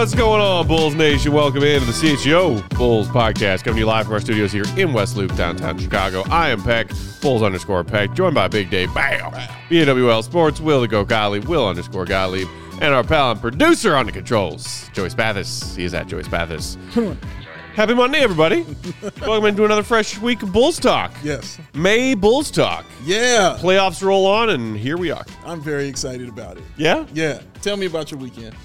What's going on, Bulls Nation? Welcome into the CHGO Bulls podcast, coming to you live from our studios here in West Loop, downtown Chicago. I am Peck, Bulls_Peck, joined by Big Dave, BAWL Sports, Will the Go Gottlieb, Will_Gottlieb, and our pal and producer on the controls, Joey Spathis. He is at Joey Spathis. Happy Monday, everybody. Welcome into another fresh week of Bulls Talk. Yes. May Bulls Talk. Yeah. Playoffs roll on, and here we are. I'm very excited about it. Yeah? Yeah. Tell me about your weekend.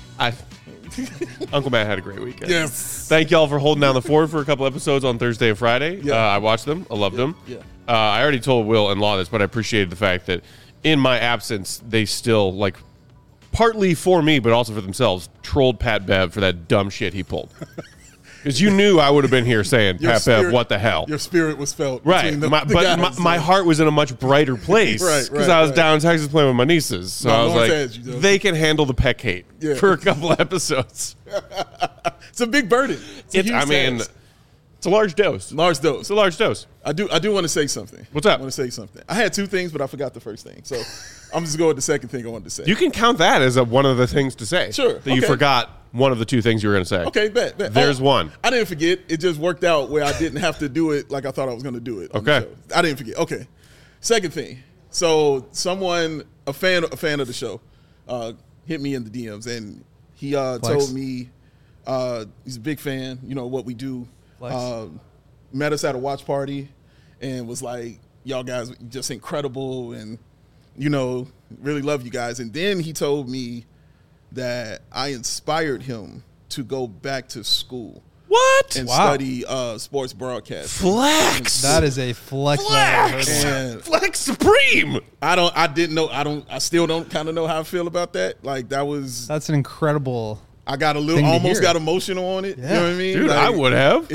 Uncle Matt had a great weekend. Yes. Thank y'all for holding down the fort for a couple episodes on Thursday and Friday. Yeah. I watched them. I loved them. Yeah. I already told Will and Law this, but I appreciated the fact that in my absence, they still, like, partly for me, but also for themselves, trolled Pat Bev for that dumb shit he pulled. Because you knew I would have been here saying, Pat Bev, what the hell? Your spirit was felt. Right. My heart was in a much brighter place. Because I was down in Texas playing with my nieces. So I was like, they can handle the Peck hate for a couple of episodes. It's a big burden. It's a large dose. Large dose. It's a large dose. I do want to say something. What's up? I want to say something. I had two things, but I forgot the first thing. So I'm just going with the second thing I wanted to say. You can count that as one of the things to say. Sure. That you forgot one of the two things you were going to say. Okay, bet. There's one. I didn't forget. It just worked out where I didn't have to do it like I thought I was going to do it. Okay. I didn't forget. Okay. Second thing. So someone, a fan of the show, hit me in the DMs, and he told me he's a big fan, what we do. Met us at a watch party and was like, y'all guys just incredible and, really love you guys. And then he told me that I inspired him to go back to school. What? And study sports broadcast. Flex. That is a flex. Flex supreme. I still don't kind of know how I feel about that. Like that's an incredible. I got almost got emotional on it. Yeah. You know what I mean? Dude, like, I would have.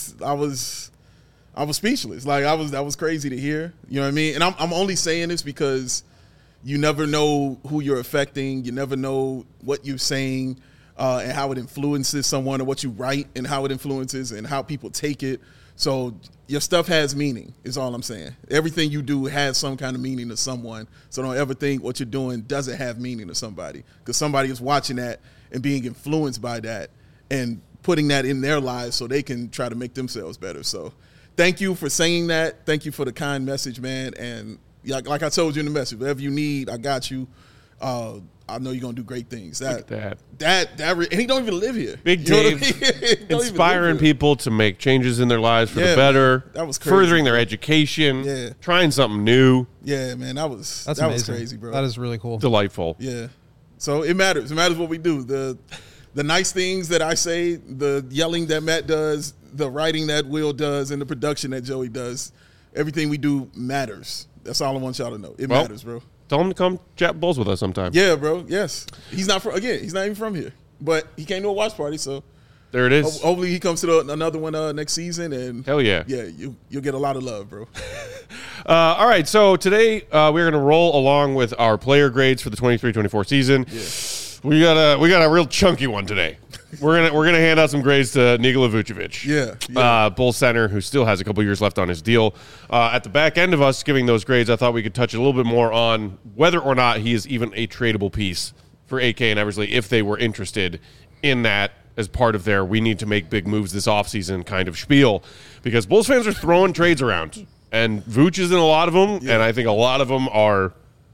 I was speechless. Like that was crazy to hear. You know what I mean? And I'm only saying this because you never know who you're affecting. You never know what you're saying and how it influences someone, or what you write and how it influences and how people take it. So your stuff has meaning is all I'm saying. Everything you do has some kind of meaning to someone. So don't ever think what you're doing doesn't have meaning to somebody, because somebody is watching that and being influenced by that and putting that in their lives so they can try to make themselves better. So thank you for saying that. Thank you for the kind message, man. And like I told you in the message, whatever you need, I got you. I know you're gonna do great things. Look at that, and he don't even live here. Big Dave, inspiring people to make changes in their lives for the better. That was crazy. Furthering their education. Yeah. Trying something new. Yeah, man, that was crazy, bro. That is really cool. Delightful. Yeah. So it matters. It matters what we do. The nice things that I say, the yelling that Matt does, the writing that Will does, and the production that Joey does. Everything we do matters. That's all I want y'all to know. It matters, bro. Tell him to come chat Bulls with us sometime. Yeah, bro. Yes. He's not even from here. But he came to a watch party, so there it is. Hopefully he comes to another one next season, and hell yeah. Yeah, you'll get a lot of love, bro. All right, so today we're going to roll along with our player grades for the 23-24 season. Yeah. We got a real chunky one today. We're gonna hand out some grades to Nikola Vucevic. Yeah. Bulls center, who still has a couple years left on his deal. At the back end of us giving those grades, I thought we could touch a little bit more on whether or not he is even a tradable piece for AK and Eversley if they were interested in that as part of their we need to make big moves this offseason kind of spiel. Because Bulls fans are throwing trades around. And Vooch is in a lot of them, and I think a lot of them are,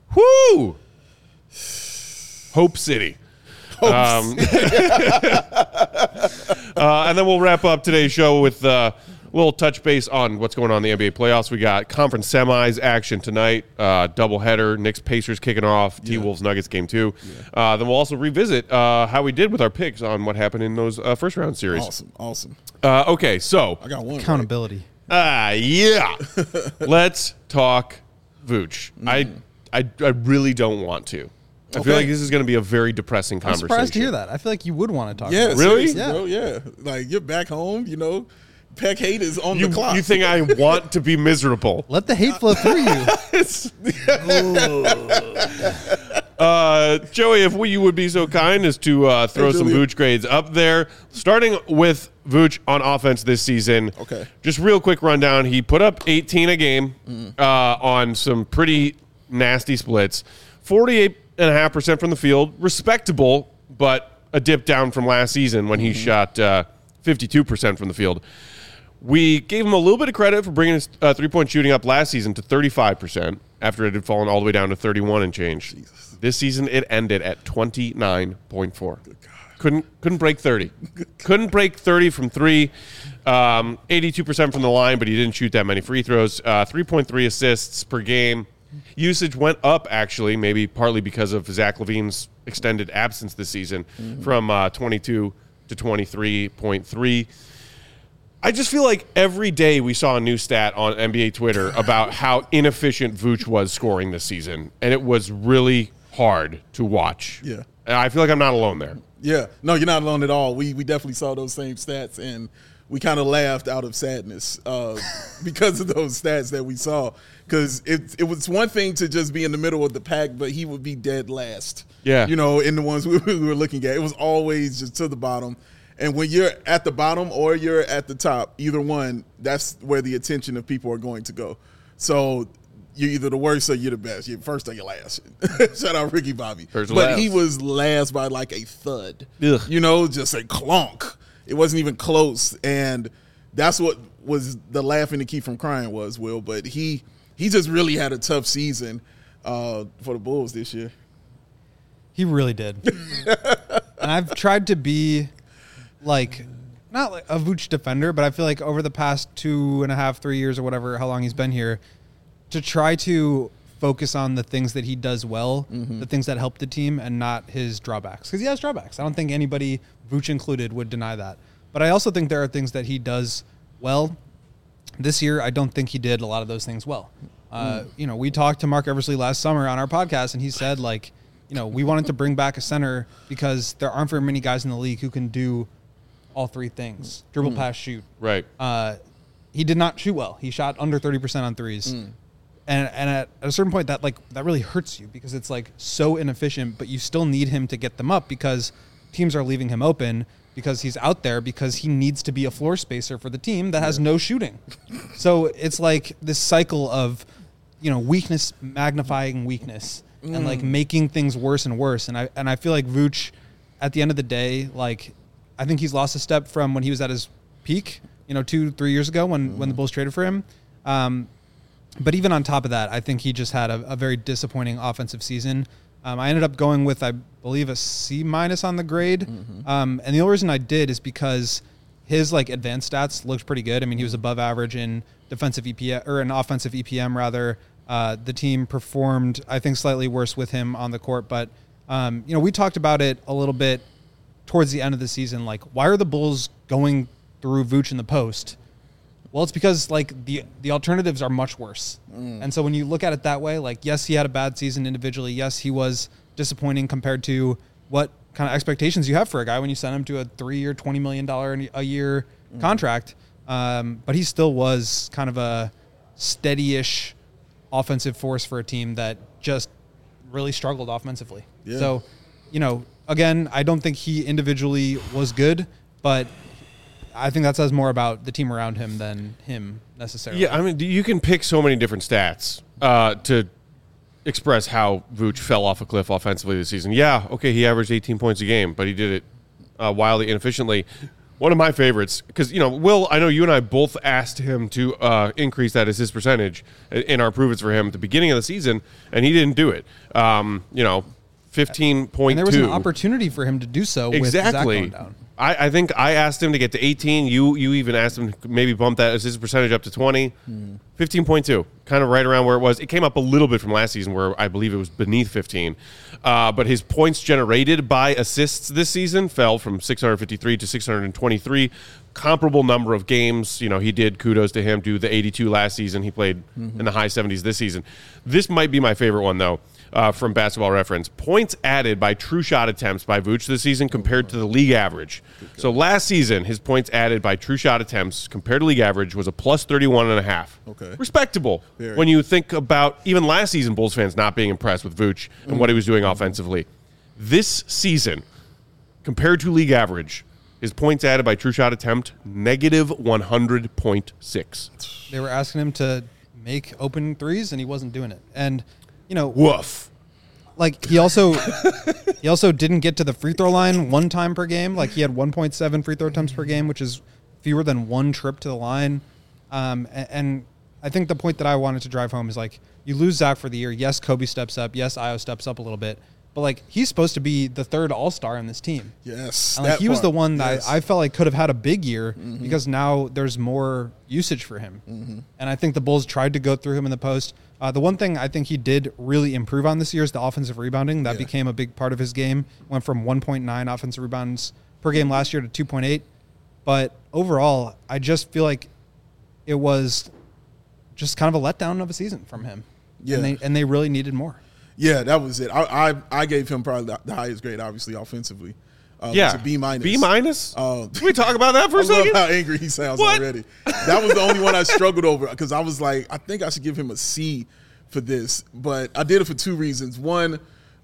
Hope City. And then we'll wrap up today's show with a little touch base on what's going on in the NBA playoffs. We got conference semis action tonight, doubleheader, Knicks-Pacers kicking off, T-Wolves Nuggets game 2. Then we'll also revisit how we did with our picks on what happened in those first-round series. Awesome. Okay, so. I got one. Accountability. Yeah. Let's talk Vooch. I really don't want to. I feel like this is going to be a very depressing conversation. I'm surprised to hear that. I feel like you would want to talk about it. Really? Yeah. Bro, yeah. Like, you're back home, Peck hate is on the clock. You think I want to be miserable. Let the hate flow through you. Joey, if you would be so kind as to throw some Vooch grades up there. Starting with Vooch on offense this season. Okay. Just real quick rundown. He put up 18 a game on some pretty nasty splits. 48.5% from the field. Respectable, but a dip down from last season when he shot 52% from the field. We gave him a little bit of credit for bringing his three-point shooting up last season to 35% after it had fallen all the way down to 31 and change. Jesus. This season, it ended at 29.4. Couldn't break 30. Couldn't break 30 from three. 82% from the line, but he didn't shoot that many free throws. 3.3 assists per game. Usage went up, actually, maybe partly because of Zach LaVine's extended absence this season, from 22 to 23.3. I just feel like every day we saw a new stat on NBA Twitter about how inefficient Vooch was scoring this season, and it was really hard to watch. Yeah. And I feel like I'm not alone there. Yeah. No, you're not alone at all. We definitely saw those same stats, and we kind of laughed out of sadness because of those stats that we saw. Because it was one thing to just be in the middle of the pack, but he would be dead last. Yeah. You know, in the ones we were looking at. It was always just to the bottom. And when you're at the bottom or you're at the top, either one, that's where the attention of people are going to go. So you're either the worst or you're the best. You're first or you're last. Shout out Ricky Bobby. But he was last by like a thud. Ugh. You know, just a clonk. It wasn't even close. And that's what was the laughing to keep from crying was, Will. But he just really had a tough season for the Bulls this year. He really did. And I've tried to be like not like a Vooch defender, but I feel like over the past 2.5, 3 years or whatever, how long he's been here, to try to focus on the things that he does well, the things that help the team, and not his drawbacks. Because he has drawbacks. I don't think anybody, Vooch included, would deny that. But I also think there are things that he does well. This year, I don't think he did a lot of those things well. You know, we talked to Mark Eversley last summer on our podcast, and he said, like, you know, we wanted to bring back a center because there aren't very many guys in the league who can do all three things: dribble, pass, shoot. Right. He did not shoot well. He shot under 30% on threes. And at a certain point, that really hurts you because it's like so inefficient, but you still need him to get them up because teams are leaving him open because he's out there because he needs to be a floor spacer for the team that has no shooting. So it's like this cycle of, you know, weakness magnifying weakness and like making things worse and worse. And I feel like Vooch, at the end of the day, like, I think he's lost a step from when he was at his peak, you know, 2-3 years ago when the Bulls traded for him. But even on top of that, I think he just had a very disappointing offensive season. I ended up going with, I believe, a C- on the grade. And the only reason I did is because his like advanced stats looked pretty good. I mean, he was above average in defensive EPM or an offensive EPM rather. The team performed, I think, slightly worse with him on the court. But, you know, we talked about it a little bit towards the end of the season. Like, why are the Bulls going through Vooch in the post? Well, it's because, like, the alternatives are much worse. And so when you look at it that way, like, yes, he had a bad season individually. Yes, he was disappointing compared to what kind of expectations you have for a guy when you send him to a 3-year, $20 million a year contract. But he still was kind of a steady-ish offensive force for a team that just really struggled offensively. Yeah. So, you know, again, I don't think he individually was good, but I think that says more about the team around him than him necessarily. Yeah, I mean, you can pick so many different stats to express how Vooch fell off a cliff offensively this season. Yeah, okay, he averaged 18 points a game, but he did it wildly inefficiently. One of my favorites, because, you know, Will, I know you and I both asked him to increase that assist percentage in our Prove It's for him at the beginning of the season, and he didn't do it. You know, 15.2. And there was an opportunity for him to do so with Zach going down. I think I asked him to get to 18. You even asked him to maybe bump that assist percentage up to 20. 15.2, kind of right around where it was. It came up a little bit from last season where I believe it was beneath 15. But his points generated by assists this season fell from 653 to 623. Comparable number of games. You know, he did, kudos to him, do the 82 last season. He played in the high 70s this season. This might be my favorite one, though. From Basketball Reference. Points added by true shot attempts by Vooch this season compared to the league average. So last season, his points added by true shot attempts compared to league average was a plus 31.5. Okay. Respectable. Very. When you think about even last season, Bulls fans not being impressed with Vooch and what he was doing offensively. This season, compared to league average, his points added by true shot attempt, negative 100.6. They were asking him to make open threes, and he wasn't doing it. And, you know, woof. like he also didn't get to the free throw line one time per game. Like he had 1.7 free throw attempts per game, which is fewer than one trip to the line. And I think the point that I wanted to drive home is like you lose Zach for the year. Yes, Kobe steps up. Yes, Io steps up a little bit. But like he's supposed to be the third All-Star in this team. Yes, and like he was the one that yes. I felt like could have had a big year because now there's more usage for him. And I think the Bulls tried to go through him in the post. The one thing I think he did really improve on this year is the offensive rebounding. That became a big part of his game. Went from 1.9 offensive rebounds per game last year to 2.8. But overall, I just feel like it was just kind of a letdown of a season from him. Yeah. And they really needed more. Yeah, that was it. I gave him probably the highest grade, obviously, offensively. Yeah. It's a B minus. B minus? Can we talk about that for a I love second? how angry he sounds What? already. That was the only one I struggled over because I was like, I think I should give him a C for this. But I did it for two reasons. One,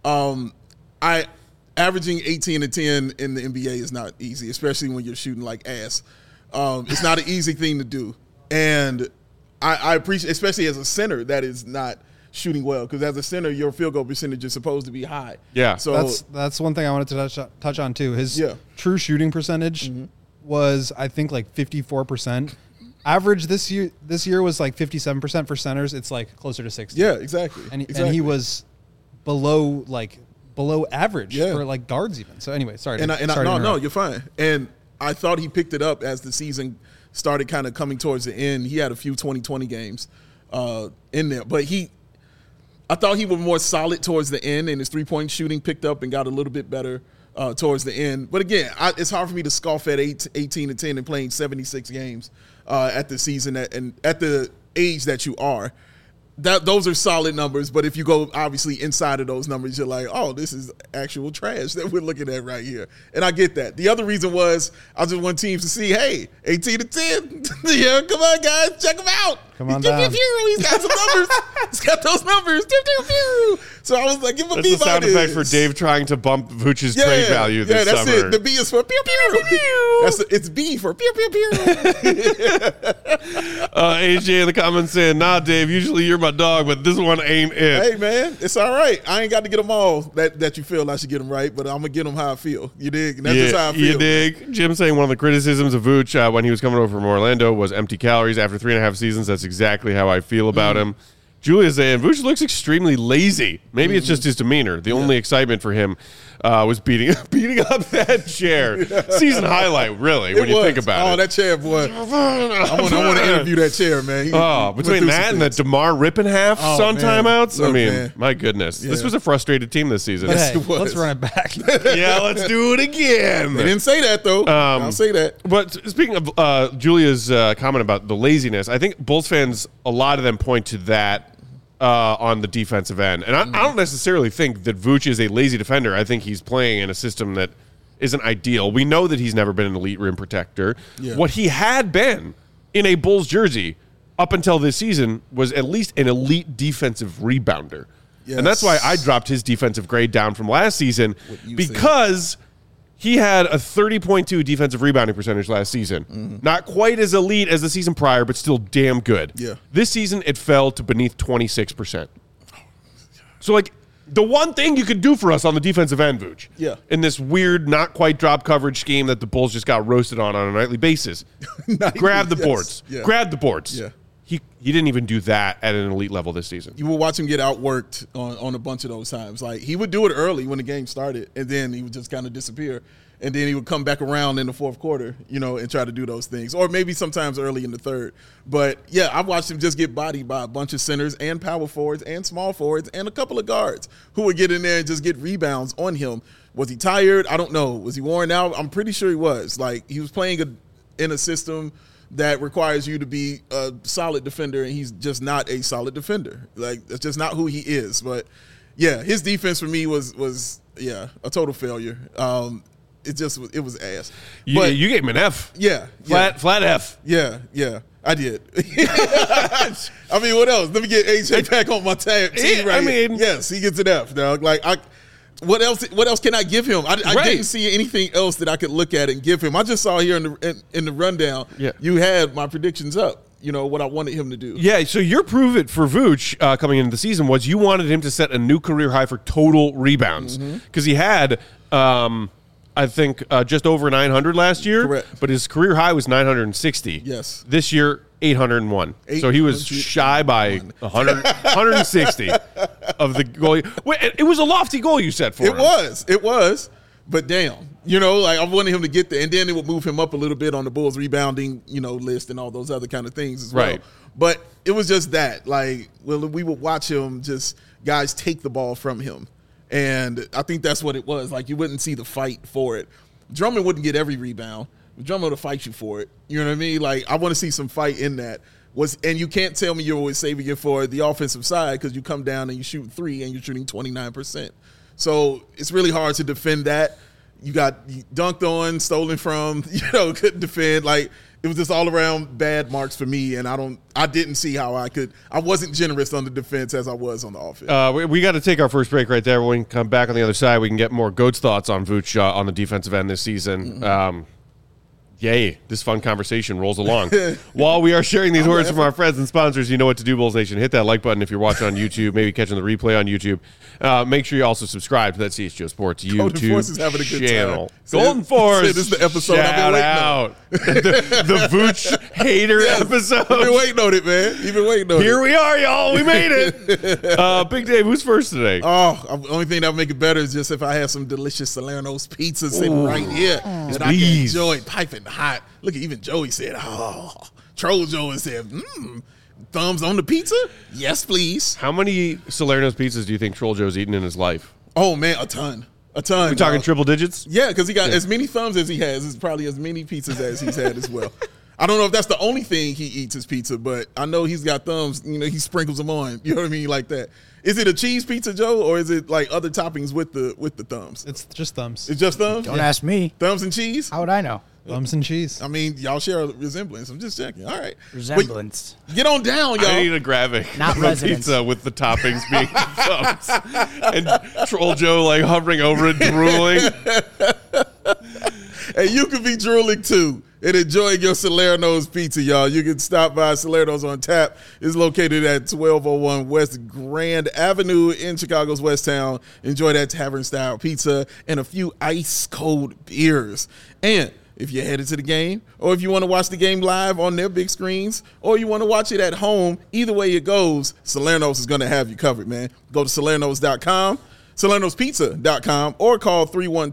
averaging 18 and 10 in the NBA is not easy, especially when you're shooting like ass. It's not an easy thing to do. And I appreciate, especially as a center, that is not shooting well because as a center, your field goal percentage is supposed to be high. Yeah. So That's one thing I wanted to touch on too. His true shooting percentage was I think like 54%. Average this year was like 57% for centers. It's like closer to 60. yeah, exactly. And exactly. he was below average for like guards even. So anyway, sorry. No, you're fine. And I thought he picked it up as the season started kind of coming towards the end. He had a few 20-20 games in there, but I thought he was more solid towards the end, and his three-point shooting picked up and got a little bit better towards the end. But again, it's hard for me to scoff at 18 and 10 and playing 76 games at the season and at the age that you are. Those are solid numbers, but if you go obviously inside of those numbers, you're like, oh, this is actual trash that we're looking at right here. And I get that. The other reason was I just want teams to see, hey, 18 to 10. Yeah, come on, guys, check him out. Come on down. He's got some numbers. He's got those numbers. So I was like, give him a That's B the sound effect for Dave trying to bump Vooch's trade value this that's summer. it. The B is for pew pew. It's B for pew pew pew. AJ in the comments saying, nah, Dave, usually you're my dog, but this one ain't it. Hey, man, it's all right. I ain't got to get them all that you feel I should get them right, but I'm going to get them how I feel. You dig? And that's just how I feel. You dig? Jim saying one of the criticisms of Vooch when he was coming over from Orlando was empty calories after 3.5 seasons. That's exactly how I feel about him. Julia saying, Vooch looks extremely lazy. Maybe it's just his demeanor. The only excitement for him was beating up that chair. Season highlight, really, when you think about it. Oh, that chair, boy. I want to interview that chair, man. Between that and the DeMar Rippenhalf on man. timeouts, Look, I mean, man. my goodness. Yeah. This was a frustrated team this season. But hey, it was. let's run it back. Yeah, let's do it again. They didn't say that, though. I'll say that. But speaking of Julia's comment about the laziness, I think Bulls fans, a lot of them point to that on the defensive end. And I don't necessarily think that Vooch is a lazy defender. I think he's playing in a system that isn't ideal. We know that he's never been an elite rim protector. Yeah. What he had been in a Bulls jersey up until this season was at least an elite defensive rebounder. Yes. And that's why I dropped his defensive grade down from last season because he had a 30.2 defensive rebounding percentage last season. Not quite as elite as the season prior, but still damn good. Yeah. This season, it fell to beneath 26%. So, like, the one thing you could do for us on the defensive end, Vooch, in this weird, not quite drop coverage scheme that the Bulls just got roasted on a nightly basis, grab the boards. Yeah. Grab the boards. Yeah. He didn't even do that at an elite level this season. You will watch him get outworked on a bunch of those times. Like, he would do it early when the game started, and then he would just kind of disappear. And then he would come back around in the fourth quarter, and try to do those things. Or maybe sometimes early in the third. But, yeah, I've watched him just get bodied by a bunch of centers and power forwards and small forwards and a couple of guards who would get in there and just get rebounds on him. Was he tired? I don't know. Was he worn out? I'm pretty sure he was. Like, he was playing in a system that requires you to be a solid defender, and he's just not a solid defender. Like, that's just not who he is. But, yeah, his defense for me was a total failure. It was ass. But you gave him an F. Yeah. Flat F. Yeah, I did. I mean, what else? Let me get AJ back on my team right here. Yes, he gets an F, dog. Like, what else can I give him? I didn't see anything else that I could look at and give him. I just saw here in the rundown, you had my predictions up. what I wanted him to do. Yeah, so your prove it for Vooch coming into the season was you wanted him to set a new career high for total rebounds because he had, I think, just over 900 last year. Correct. But his career high was 960. Yes. This year, 801. So he was shy by 160 of the goal. Wait, it was a lofty goal you set for him. It was. But damn, I wanted him to get there, and then it would move him up a little bit on the Bulls rebounding, list and all those other kind of things as well. Right. But it was just that, we would watch him guys take the ball from him. And I think that's what it was. You wouldn't see the fight for it. Drummond wouldn't get every rebound. Drummond would fight you for it. You know what I mean? I want to see some fight in that. And you can't tell me you're always saving it for the offensive side because you come down and you shoot 3 and you're shooting 29%. So it's really hard to defend that. You got dunked on, stolen from, couldn't defend. It was just all around bad marks for me, and I didn't see how I wasn't generous on the defense as I was on the offense. We got to take our first break right there. When we come back on the other side, we can get more Goat's thoughts on Vooch on the defensive end this season. Yay, this fun conversation rolls along. While we are sharing these words from our friends and sponsors, you know what to do, Bulls Nation. Hit that like button if you're watching on YouTube, maybe catching the replay on YouTube. Make sure you also subscribe to that CHGO Sports YouTube Force is having a good channel. Time. Golden Force. This is the episode Shout I've been out. The Vooch hater episode. You've been waiting on it, man. You've been waiting on it. Here we are, y'all. We made it. Big Dave, who's first today? Oh, the only thing that would make it better is just if I have some delicious Salerno's pizza sitting right here that I can enjoy piping hot. Look, even Joey said, Troll Joey said, thumbs on the pizza? Yes, please. How many Salerno's pizzas do you think Troll Joe's eaten in his life? Oh, man, a ton. We're talking triple digits? Yeah, because he got as many thumbs as he has. It's probably as many pizzas as he's had as well. I don't know if that's the only thing he eats is pizza, but I know he's got thumbs. He sprinkles them on. You know what I mean? Like that. Is it a cheese pizza, Joe, or is it other toppings with the thumbs? It's just thumbs. It's just thumbs? Don't ask me. Thumbs and cheese? How would I know? Thumbs and cheese. I mean, y'all share a resemblance. I'm just checking. All right. Resemblance. Wait, get on down, y'all. I need a graphic Not of a residence. pizza with the toppings being thumbs. And Troll Joe hovering over it, drooling. Hey, you could be drooling too and enjoying your Salerno's pizza, y'all. You can stop by Salerno's on Tap. It's located at 1201 West Grand Avenue in Chicago's West Town. Enjoy that tavern-style pizza and a few ice-cold beers. And if you're headed to the game, or if you want to watch the game live on their big screens, or you want to watch it at home, either way it goes, Salerno's is going to have you covered, man. Go to Salerno's.com. Salerno'sPizza.com or call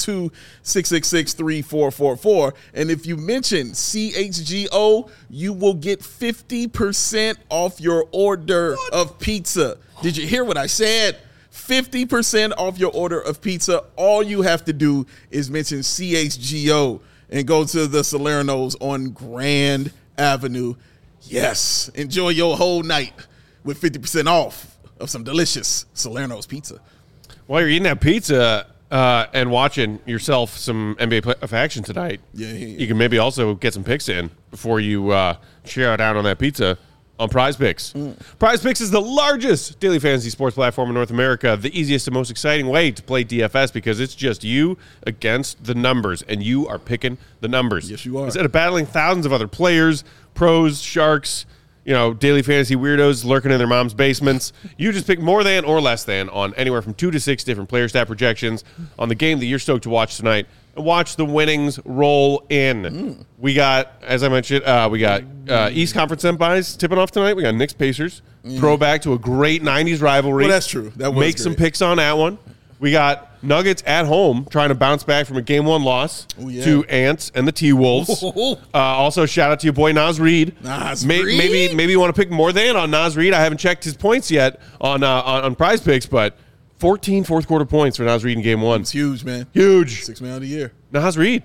312-666-3444. And if you mention CHGO, you will get 50% off your order of pizza. Did you hear what I said? 50% off your order of pizza. All you have to do is mention CHGO and go to the Salerno's on Grand Avenue. Yes, enjoy your whole night with 50% off of some delicious Salerno's pizza. While you're eating that pizza and watching yourself some NBA playoff action tonight, you can maybe also get some picks in before you share it out on that pizza on Prize Picks. Prize Picks is the largest daily fantasy sports platform in North America, the easiest and most exciting way to play DFS because it's just you against the numbers, and you are picking the numbers. Yes, you are. Instead of battling thousands of other players, pros, sharks, daily fantasy weirdos lurking in their mom's basements. You just pick more than or less than on anywhere from 2 to 6 different player stat projections on the game that you're stoked to watch tonight and watch the winnings roll in. We got, as I mentioned, East Conference semis tipping off tonight. We got Knicks Pacers, throwback to a great 90s rivalry. Well, that's true. That was Make great. some picks on that one. We got Nuggets at home trying to bounce back from a Game 1 loss to Ants and the T-Wolves. Also, shout out to your boy Naz Reid. Maybe you want to pick more than on Naz Reid. I haven't checked his points yet on Prize Picks, but 14 fourth-quarter points for Naz Reid in Game 1. It's huge, man. Huge. 6th man of the year. Naz Reid.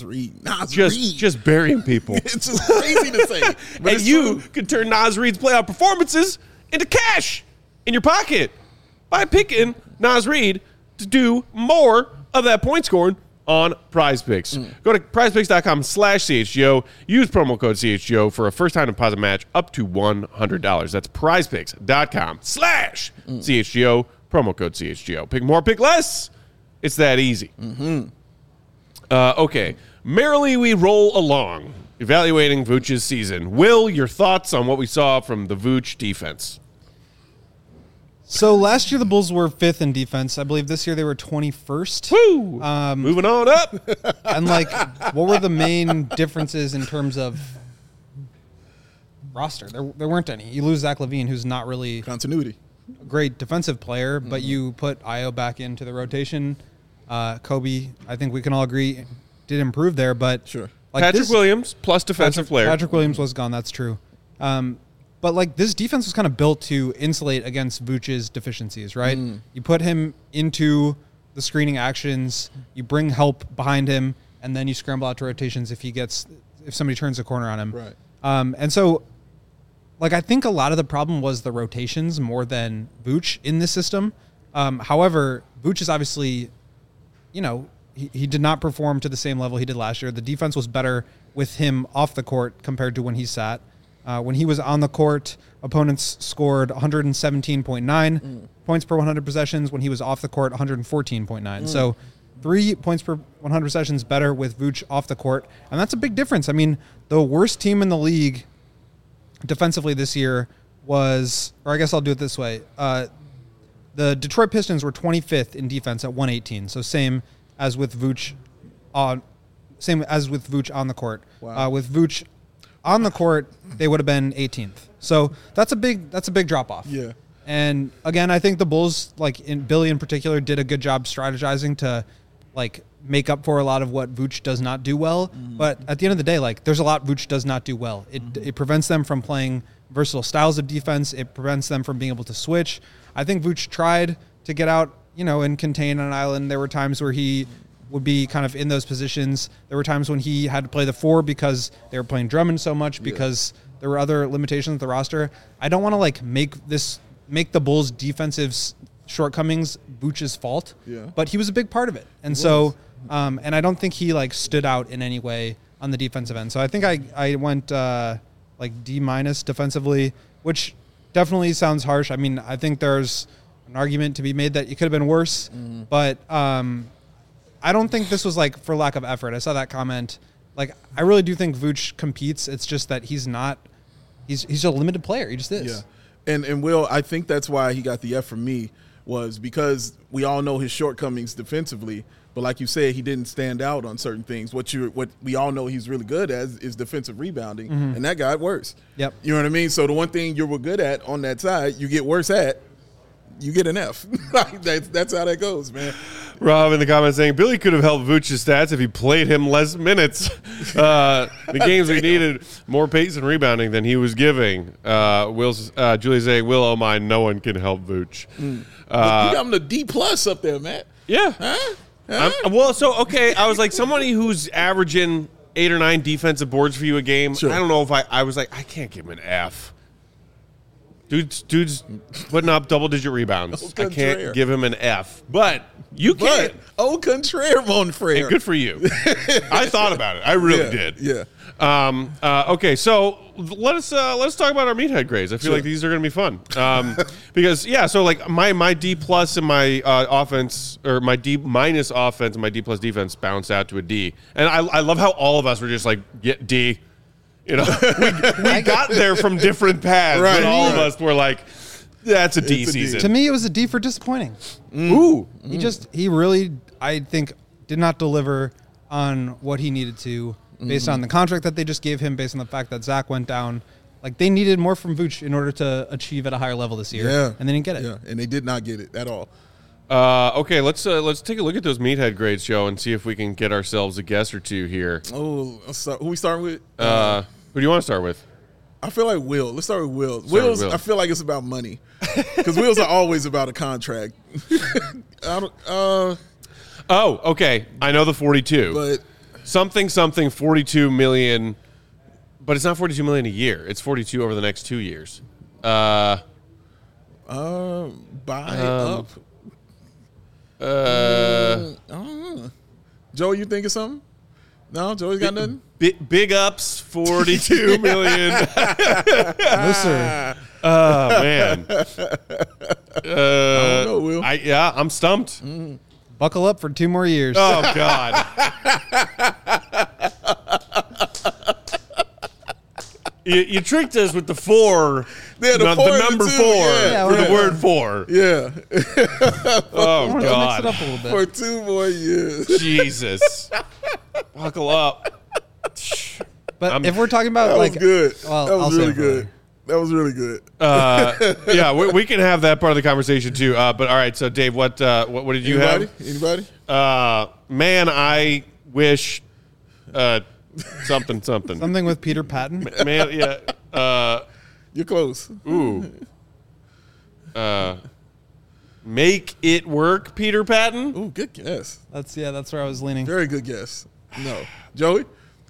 Just burying people. It's just crazy to say. But And you can turn Naz Reid's playoff performances into cash in your pocket by picking Naz Reid to do more of that point scoring on Prize Picks. Go to prizepicks.com/CHGO. Use promo code CHGO for a first-time deposit match up to $100. That's prizepicks.com/CHGO. Promo code CHGO. Pick more, pick less. It's that easy. Okay. Merrily we roll along evaluating Vooch's season. Will, your thoughts on what we saw from the Vooch defense? So last year the Bulls were 5th in defense. I believe this year they were 21st. Woo! Moving on up. And like, what were the main differences in terms of roster? There weren't any. You lose Zach LaVine, who's not really Continuity. a great defensive player, but you put Io back into the rotation. Kobe, I think we can all agree, did improve there, but Sure. like Patrick Williams plus defensive player. Patrick Williams was gone. That's true. But like this defense was kind of built to insulate against Vooch's deficiencies, right? You put him into the screening actions, you bring help behind him, and then you scramble out to rotations if somebody turns a corner on him. Right. And so, like, I think a lot of the problem was the rotations more than Vooch in this system. However, Vooch is obviously, he did not perform to the same level he did last year. The defense was better with him off the court compared to when he sat. When he was on the court, opponents scored 117.9 points per 100 possessions. When he was off the court, 114.9. So 3 points per 100 possessions better with Vooch off the court. And that's a big difference. I mean, the worst team in the league defensively this year was, or I guess I'll do it this way. The Detroit Pistons were 25th in defense at 118. So same as with Vooch on the court. Wow. With Vooch on the court, they would have been 18th. So that's a big drop off. Yeah. And again, I think the Bulls, like Billy in particular, did a good job strategizing to like make up for a lot of what Vooch does not do well. But at the end of the day, like there's a lot Vooch does not do well. It prevents them from playing versatile styles of defense. It prevents them from being able to switch. I think Vooch tried to get out, and contain an island. There were times where he would be kind of in those positions. There were times when he had to play the 4 because they were playing Drummond so much because there were other limitations with the roster. I don't want to like make the Bulls' defensive shortcoments Vooch's fault, but he was a big part of it. And so, and I don't think he like stood out in any way on the defensive end. So I think I went like D- defensively, which definitely sounds harsh. I mean, I think there's an argument to be made that it could have been worse, but I don't think this was like for lack of effort. I saw that comment. Like, I really do think Vooch competes. It's just that he's a limited player. He just is. Yeah. And Will, I think that's why he got the F from me, was because we all know his shortcomings defensively. But like you said, he didn't stand out on certain things. What we all know he's really good at is defensive rebounding, and that got worse. Yep. You know what I mean? So the one thing you were good at on that side, you get worse at, you get an F. Like that's how that goes, man. Rob in the comments saying Billy could have helped Vooch's stats if he played him less minutes. The games we needed more pace and rebounding than he was giving. Julie saying, Will, oh my, no one can help Vooch. You got him the D+ up there, Matt. Yeah. Huh? I was like somebody who's averaging 8 or 9 defensive boards for you a game. Sure. I don't know if I was like, I can't give him an F. Dude's putting up double-digit rebounds. I can't give him an F. But you can. Au contraire, mon frère. And good for you. I thought about it. I really did. Yeah. Okay, so let's talk about our meathead grades. I feel like these are going to be fun because so like my D+ and my offense, or my D- offense and my D+ defense bounce out to a D, and I love how all of us were just like get D. We got there from different paths, right, but all of us were like, that's a D season. To me, it was a D for disappointing. Ooh. He really, I think, did not deliver on what he needed to based on the contract that they just gave him, based on the fact that Zach went down. Like, they needed more from Vooch in order to achieve at a higher level this year. Yeah. And they didn't get it. Yeah, and they did not get it at all. Okay, let's take a look at those meathead grades, Joe, and see if we can get ourselves a guess or two here. Oh, who we starting with? Who do you want to start with? I feel like Will. Let's start with Will. Will's. I feel like it's about money because Will's are always about a contract. Okay. I know the 42. But something 42 million, but it's not 42 million a year. It's 42 over the next 2 years. Buy up. I don't know. Joe, you think of something? No, Joey's got nothing. Big ups, 42 million. No, sir. Oh man. I don't know, Will. I'm stumped. Buckle up for 2 more years. Oh God. You tricked us with the 4. Yeah, the not 4 the and number the 4 2, yeah. for Yeah. the word 4. Yeah. Oh, Mix it God. up a little bit. For 2 more years. Jesus. Buckle up. But if we're talking about That like, was good. well, That I'll was save really it for good. later. That was really good. Yeah, we can have that part of the conversation too. But all right, so Dave, what did you have? Anybody? Man, I wish something. Something with Peter Patton. Man, yeah. You're close. Ooh. Make it work, Peter Patton. Ooh, good guess. That's where I was leaning. Very good guess. No. Joey?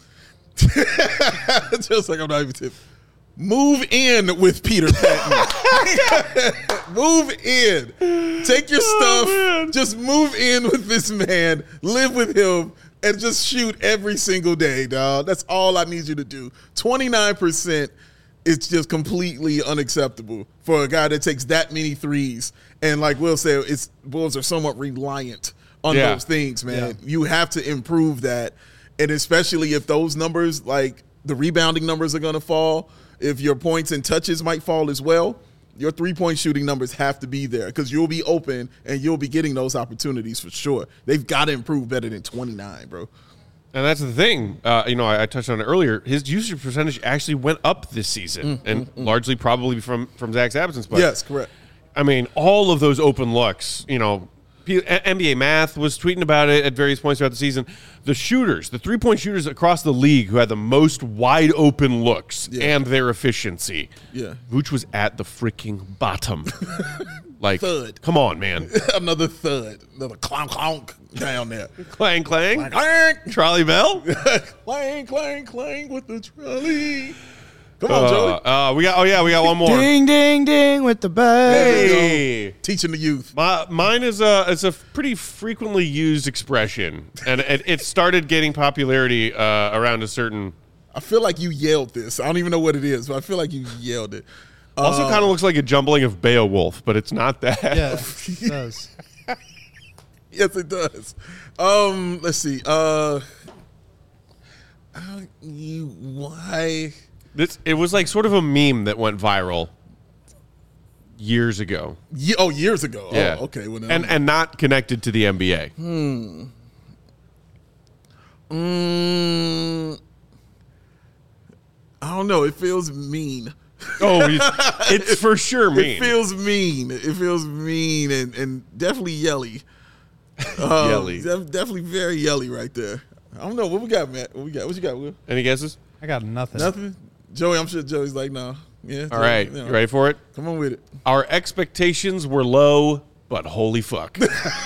Just like I'm not even tipping. Move in with Peter Patton. Move in. Take your stuff. man. Just move in with this man. Live with him. And just shoot every single day, dog. That's all I need you to do. 29% is just completely unacceptable for a guy that takes that many threes. And like Will said, Bulls are somewhat reliant on those things, man. Yeah. You have to improve that. And especially if those numbers, like the rebounding numbers are going to fall, if your points and touches might fall as well, your three-point shooting numbers have to be there because you'll be open and you'll be getting those opportunities for sure. They've got to improve better than 29, bro. And that's the thing. I touched on it earlier. His usage percentage actually went up this season, and largely probably from Zach's absence. But Yes, correct. I mean, all of those open looks, NBA Math was tweeting about it at various points throughout the season. The shooters, the three-point shooters across the league who had the most wide open looks and their efficiency. Yeah. Vooch was at the freaking bottom. Like, Third. come on, man. Another thud. Another clonk clonk down there. Clang, clang. Clank, Trolley bell. clang, clang, clang with the trolley. Come on, Joey. We got one more. Ding, ding, ding with the bell. Hey. Teaching the youth. Mine is a pretty frequently used expression, and it started getting popularity around a certain. I feel like you yelled this. I don't even know what it is, but I feel like you yelled it. Also, kind of looks like a jumbling of Beowulf, but it's not that. Yeah, it does. Yes, it does. Let's see. Why? It was like sort of a meme that went viral years ago. Years ago. Yeah. Oh, okay. Well, and not connected to the NBA. I don't know. It feels mean. Oh, it's for sure mean. It feels mean. It feels mean and definitely yelly. Yelly. Definitely very yelly right there. I don't know. What we got, Matt? What you got, Will? Any guesses? I got nothing. Nothing? Joey, I'm sure Joey's like, no. Yeah. All right. You ready for it? Come on with it. Our expectations were low, but holy fuck.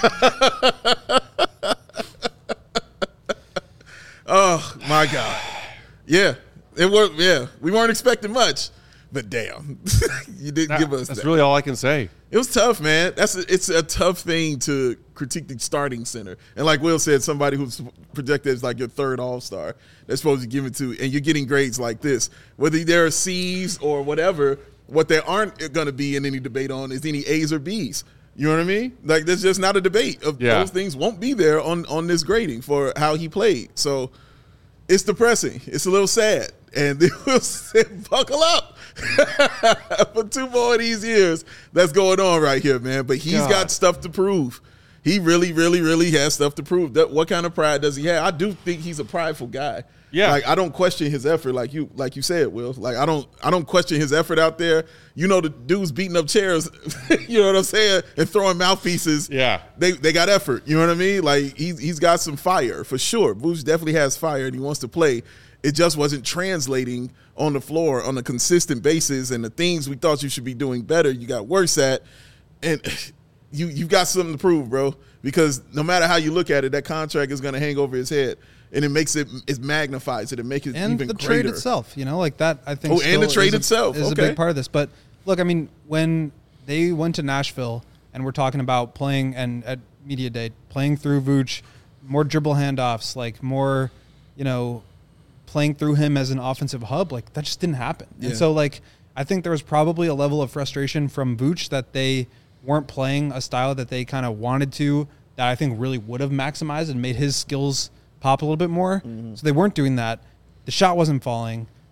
Oh, my God. Yeah. It was. Yeah. We weren't expecting much, but damn. You didn't give us That's that. really all I can say. It was tough, man. It's a tough thing to critique the starting center. And like Will said, somebody who's projected as like your third all-star, they're supposed to give it to, and you're getting grades like this. Whether they're C's or whatever, what there aren't going to be in any debate on is any A's or B's. You know what I mean? Like, there's just not a debate. Those things won't be there on this grading for how he played. So it's depressing. It's a little sad. And they will say, buckle up for 2 more of these years that's going on right here, man. But he's got stuff to prove. He really, really, really has stuff to prove. What kind of pride does he have? I do think he's a prideful guy. Yeah. Like, I don't question his effort like you said, Will. Like, I don't question his effort out there. You know, the dudes beating up chairs, you know what I'm saying, and throwing mouthpieces. Yeah. They got effort. You know what I mean? Like, he's got some fire for sure. Vooch definitely has fire and he wants to play. It just wasn't translating on the floor on a consistent basis, and the things we thought you should be doing better, you got worse at. And you've got something to prove, bro, because no matter how you look at it, that contract is going to hang over his head, and it magnifies it and makes it And even the greater. trade itself, like that, I think. Oh, and the trade itself. is a Okay. big part of this. But look, I mean, when they went to Nashville and we're talking about playing and at media day, playing through Vooch, more dribble handoffs, like more, playing through him as an offensive hub, like that just didn't happen. Yeah. And so I think there was probably a level of frustration from Vooch that they weren't playing a style that they kind of wanted to, that I think really would have maximized and made his skills pop a little bit more. Mm-hmm. So they weren't doing that. The shot wasn't falling.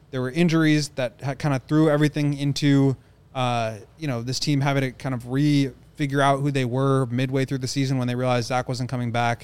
There were injuries that kind of threw everything into, this team having to kind of figure out who they were midway through the season when they realized Zach wasn't coming back.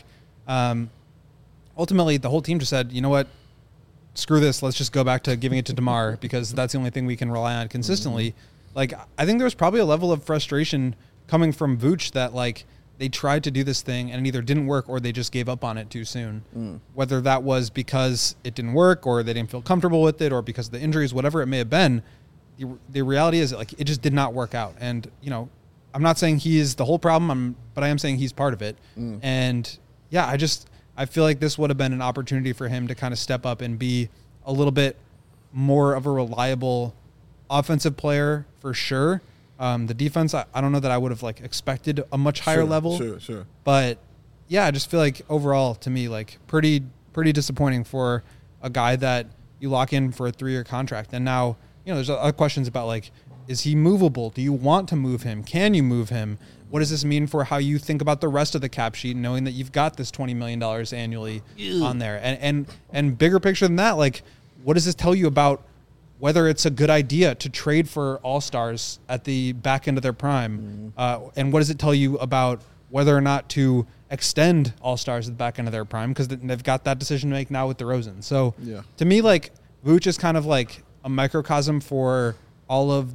Ultimately, the whole team just said, you know what, screw this. Let's just go back to giving it to DeMar because that's the only thing we can rely on consistently. Like, I think there was probably a level of frustration coming from Vooch that, like, they tried to do this thing and it either didn't work or they just gave up on it too soon. Whether that was because it didn't work or they didn't feel comfortable with it or because of the injuries, whatever it may have been, the reality is, like, it just did not work out. And, I'm not saying he is the whole problem, but I am saying he's part of it. And, yeah, I feel like this would have been an opportunity for him to kind of step up and be a little bit more of a reliable offensive player for sure. The defense, I don't know that I would have like expected a much higher level. Sure. But yeah, I just feel like overall to me, like pretty disappointing for a guy that you lock in for a 3-year contract. And now, there's other questions about like, is he movable? Do you want to move him? Can you move him? What does this mean for how you think about the rest of the cap sheet, knowing that you've got this $20 million annually on there? And bigger picture than that, like, what does this tell you about whether it's a good idea to trade for all-stars at the back end of their prime? And what does it tell you about whether or not to extend all-stars at the back end of their prime? Because they've got that decision to make now with DeRozan. So to me, like, Vooch is kind of like a microcosm for all of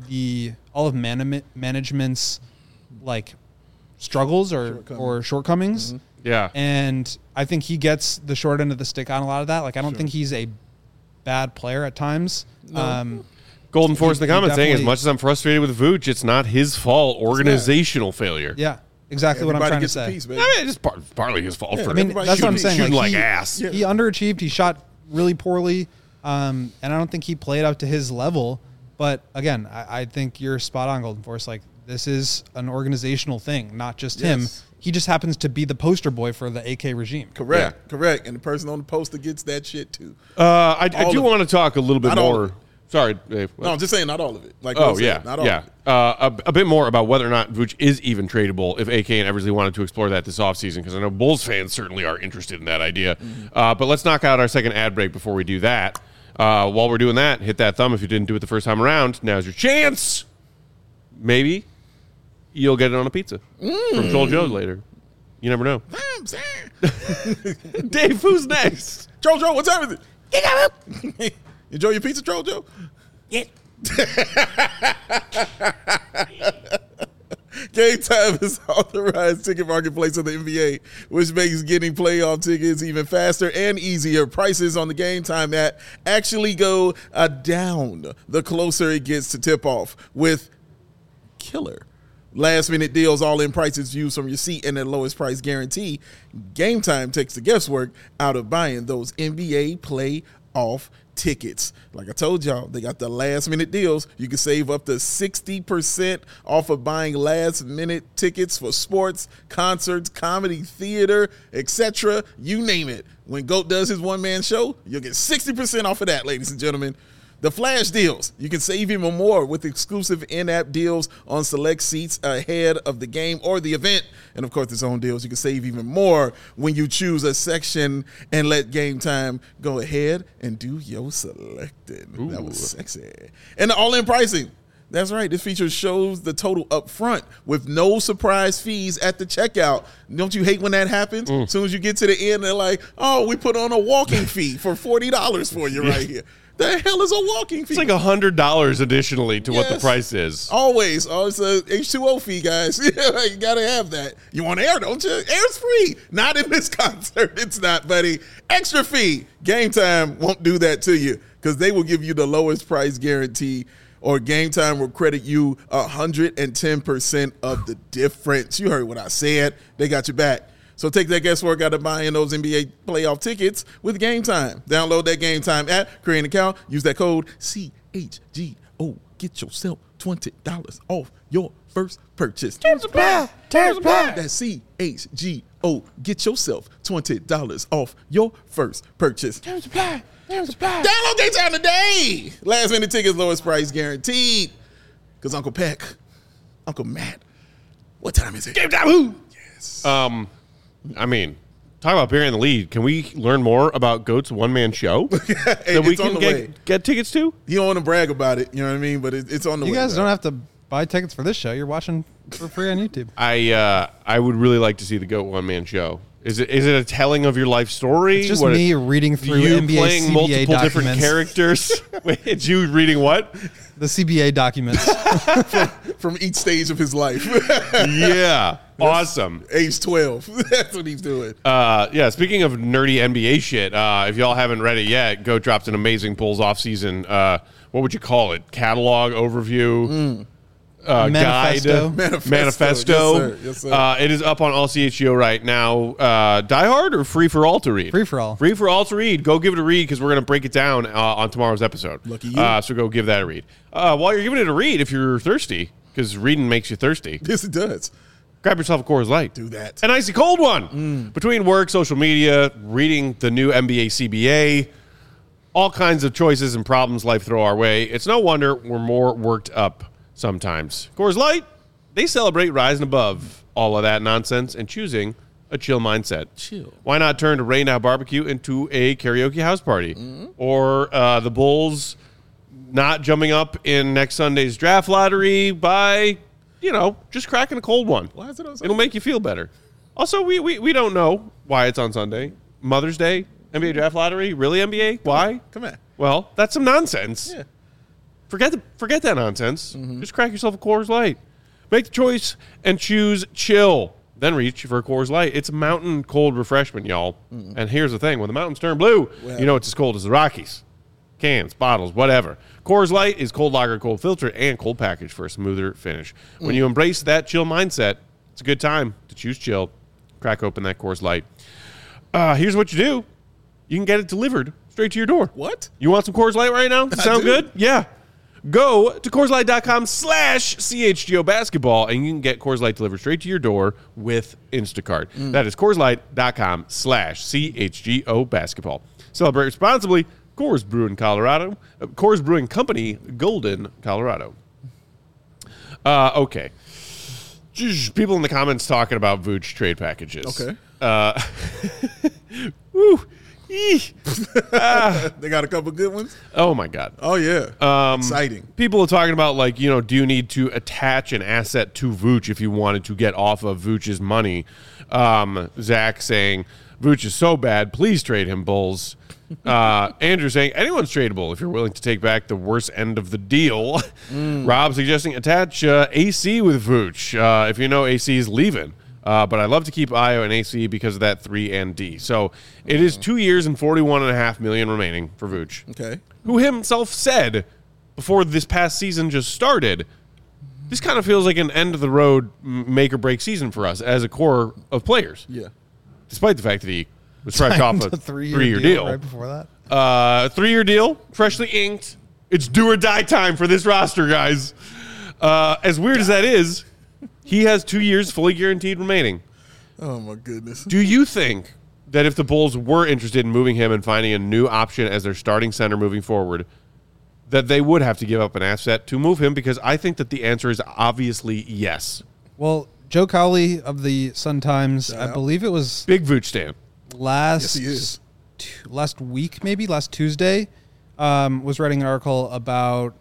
management's like struggles or shortcomings. Yeah. And I think he gets the short end of the stick on a lot of that. Like, I don't think he's a bad player at times. Golden Force in the comments saying, as much as I'm frustrated with Vooch, it's not his fault. Organizational failure. Yeah, exactly what I'm trying to say. Piece, I mean, it's partly his fault for that's what I'm saying. Shooting like he, ass. He underachieved. He shot really poorly. And I don't think he played up to his level. But again, I think you're spot on, Golden Force. Like, this is an organizational thing, not just him. He just happens to be the poster boy for the AK regime. Correct. And the person on the poster gets that shit too. I do want to talk a little bit more. Sorry, Dave. No, I'm just saying not all of it. Like, not all of it. A bit more about whether or not Vooch is even tradable if AK and Eversley wanted to explore that this offseason, because I know Bulls fans certainly are interested in that idea. But let's knock out our second ad break before we do that. While we're doing that, hit that thumb if you didn't do it the first time around. Now's your chance. Maybe you'll get it on a pizza from Troll Joe later. You never know. Dave, who's next? Troll Joe, what time is it? Enjoy your pizza, Troll Joe? Yeah. Game Time is authorized ticket marketplace of the NBA, which makes getting playoff tickets even faster and easier. Prices on the Game Time app actually go down the closer it gets to tip-off with killer last-minute deals, all-in prices views from your seat, and the lowest price guarantee. Game Time takes the guesswork out of buying those NBA playoff tickets. Like I told y'all, they got the last-minute deals. You can save up to 60% off of buying last-minute tickets for sports, concerts, comedy, theater, etc. You name it. When GOAT does his one-man show, you'll get 60% off of that, ladies and gentlemen. The flash deals. You can save even more with exclusive in-app deals on select seats ahead of the game or the event. And, of course, there's own deals. You can save even more when you choose a section and let Game Time go ahead and do your selecting. Ooh. That was sexy. And the all-in pricing. That's right. This feature shows the total up front with no surprise fees at the checkout. Don't you hate when that happens? As soon as you get to the end, they're like, oh, we put on a walking fee for $40 for you right here. The hell is a walking fee? It's like $100 additionally to what the price is. Always. Oh, it's a H2O fee, guys. You got to have that. You want air, don't you? Air's free. Not in this concert. It's not, buddy. Extra fee. Game Time won't do that to you because they will give you the lowest price guarantee, or Game Time will credit you 110% of the difference. You heard what I said. They got your back. So take that guesswork out of buying those NBA playoff tickets with Game Time. Download that Game Time app, create an account, use that code CHGO. Get yourself $20 off your first purchase. Terms apply. That's CHGO. Get yourself $20 off your first purchase. Terms apply. Download Game Time today. Last minute tickets, lowest price guaranteed. Because Uncle Peck, Uncle Matt, what time is it? Game Time, who? Yes. I mean, talk about burying the lead. Can we learn more about GOAT's one-man show that we can get tickets to? You don't want to brag about it, you know what I mean? But it's on the way. You guys don't have to buy tickets for this show. You're watching for free on YouTube. I would really like to see the GOAT one-man show. Is it a telling of your life story? It's just me reading through you NBA playing CBA multiple documents. different characters? Wait, it's you reading what? The CBA documents. from each stage of his life. Yeah. Awesome. Age 12. That's what he's doing. Yeah, speaking of nerdy NBA shit, if y'all haven't read it yet, GOAT dropped an amazing Bulls offseason, what would you call it? Catalog overview? Manifesto. Guide? Manifesto. Yes, sir. It is up on all CHGO right now. Die Hard or Free for All to read? Free for all. Free for all to read. Go give it a read because we're going to break it down on tomorrow's episode. Lucky you. So go give that a read. While you're giving it a read, if you're thirsty, because reading makes you thirsty, Yes, it does. grab yourself a Coors Light. Do that. An icy cold one. Between work, social media, reading the new NBA CBA, all kinds of choices and problems life throw our way. It's no wonder we're more worked up sometimes. Coors Light, they celebrate rising above all of that nonsense and choosing a chill mindset. Chill. Why not turn a Rain Now barbecue into a karaoke house party? Or the Bulls not jumping up in next Sunday's draft lottery by, just cracking a cold one. Why is it on Sunday? It'll make you feel better. Also, we don't know why it's on Sunday. Mother's Day, NBA draft lottery, really NBA? Why? Come on. Well, that's some nonsense. Yeah. Forget that nonsense. Just crack yourself a Coors Light. Make the choice and choose chill. Then reach for a Coors Light. It's a mountain cold refreshment, y'all. And here's the thing. When the mountains turn blue, you know it's as cold as the Rockies. Cans, bottles, whatever. Coors Light is cold lager, cold filter, and cold package for a smoother finish. When you embrace that chill mindset, it's a good time to choose chill. Crack open that Coors Light. Here's what you do. You can get it delivered straight to your door. What? You want some Coors Light right now? Sound do. good? Yeah. Go to CoorsLight.com/CHGO basketball and you can get Coors Light delivered straight to your door with Instacart. That is CoorsLight.com/CHGO basketball. Celebrate responsibly. Coors Brewing Colorado. Coors Brewing Company, Golden, Colorado. Okay. People in the comments talking about Vooch trade packages. Okay. Woo. They got a couple good ones. Oh, my God. Oh, yeah. Exciting. People are talking about, do you need to attach an asset to Vooch if you wanted to get off of Vooch's money? Zach saying, Vooch is so bad, please trade him, Bulls. Andrew saying, anyone's tradable if you're willing to take back the worst end of the deal. Rob suggesting attach AC with Vooch if you know AC is leaving. But I love to keep Io and AC because of that 3 and D. So it is 2 years and $41.5 million remaining for Vooch. Okay. Who himself said before this past season just started, this kind of feels like an end-of-the-road make-or-break season for us as a core of players. Yeah. Despite the fact that he was fresh off a 3-year deal. Right before that. 3-year deal, freshly inked. It's do or die time for this roster, guys. As weird as that is, he has 2 years fully guaranteed remaining. Oh, my goodness. Do you think that if the Bulls were interested in moving him and finding a new option as their starting center moving forward, that they would have to give up an asset to move him? Because I think that the answer is obviously yes. Well, Joe Cowley of the Sun-Times, I believe it was Big Vooch stan. Yes, he is. last week, maybe last Tuesday, was writing an article about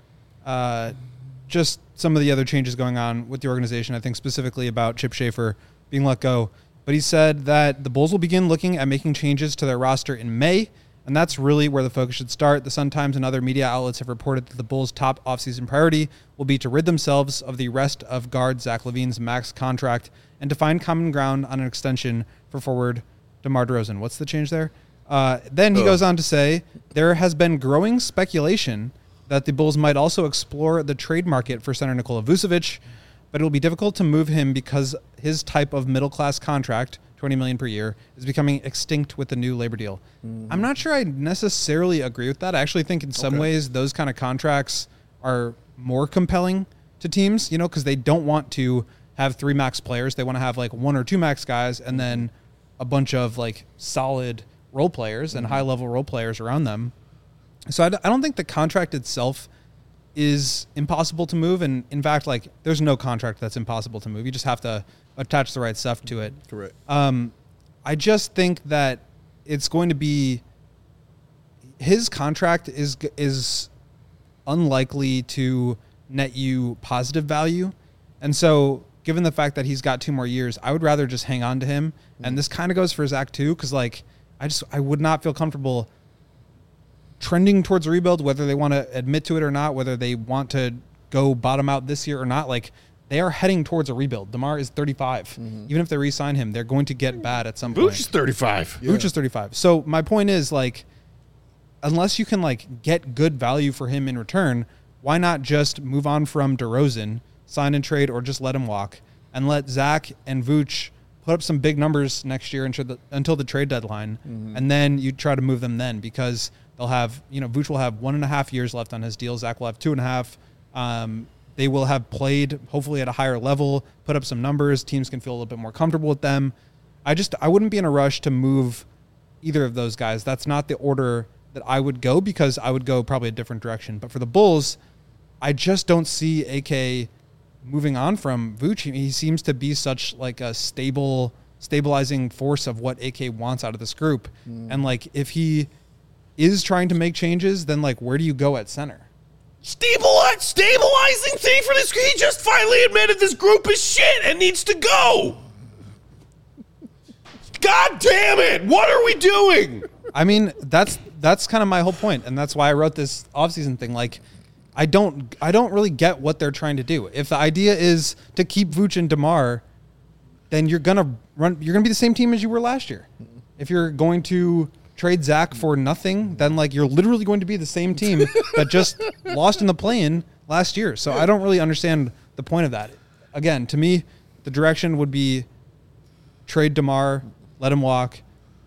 just some of the other changes going on with the organization. I think specifically about Chip Schaefer being let go. But he said that the Bulls will begin looking at making changes to their roster in May, and that's really where the focus should start. The Sun-Times and other media outlets have reported that the Bulls' top offseason priority will be to rid themselves of the rest of guard Zach LaVine's max contract and to find common ground on an extension for forward DeMar DeRozan. What's the change there? Then he goes on to say, there has been growing speculation that the Bulls might also explore the trade market for center Nikola Vucevic, but it will be difficult to move him because his type of middle-class contract, $20 million per year, is becoming extinct with the new labor deal. I'm not sure I necessarily agree with that. I actually think in some ways those kind of contracts are more compelling to teams, because they don't want to have 3 max players. They want to have 1 or 2 max guys and then a bunch of solid role players and high-level role players around them. So I don't think the contract itself is impossible to move. And in fact, there's no contract that's impossible to move. You just have to attach the right stuff to it. Correct. I just think that it's going to be his contract is unlikely to net you positive value. And so given the fact that he's got 2 more years, I would rather just hang on to him. And this kind of goes for Zach too, because like I would not feel comfortable trending towards a rebuild, whether they want to admit to it or not, whether they want to go bottom out this year or not. Like, they are heading towards a rebuild. DeMar is 35. Even if they re-sign him, they're going to get bad at some point. Vooch is 35. Vooch is 35. So my point is, like, unless you can like get good value for him in return, why not just move on from DeRozan, sign and trade, or just let him walk and let Zach and Vooch put up some big numbers next year until the trade deadline, and then you try to move them then, because they'll have, Vooch will have 1.5 years left on his deal. Zach will have 2.5. They will have played hopefully at a higher level, put up some numbers. Teams can feel a little bit more comfortable with them. I wouldn't be in a rush to move either of those guys. That's not the order that I would go, because I would go probably a different direction. But for the Bulls, I just don't see AK moving on from Vooch. He seems to be such like a stabilizing force of what AK wants out of this group. And like, if he is trying to make changes, then like, where do you go at center? Stabilizing thing for this. He just finally admitted this group is shit and needs to go. God damn it. What are we doing? I mean, that's kind of my whole point, and that's why I wrote this offseason thing. Like, I don't really get what they're trying to do. If the idea is to keep Vooch and DeMar, then you're gonna be the same team as you were last year. If you're going to trade Zach for nothing, then like you're literally going to be the same team that just lost in the play-in last year. So I don't really understand the point of that. Again, to me, the direction would be trade DeMar, let him walk,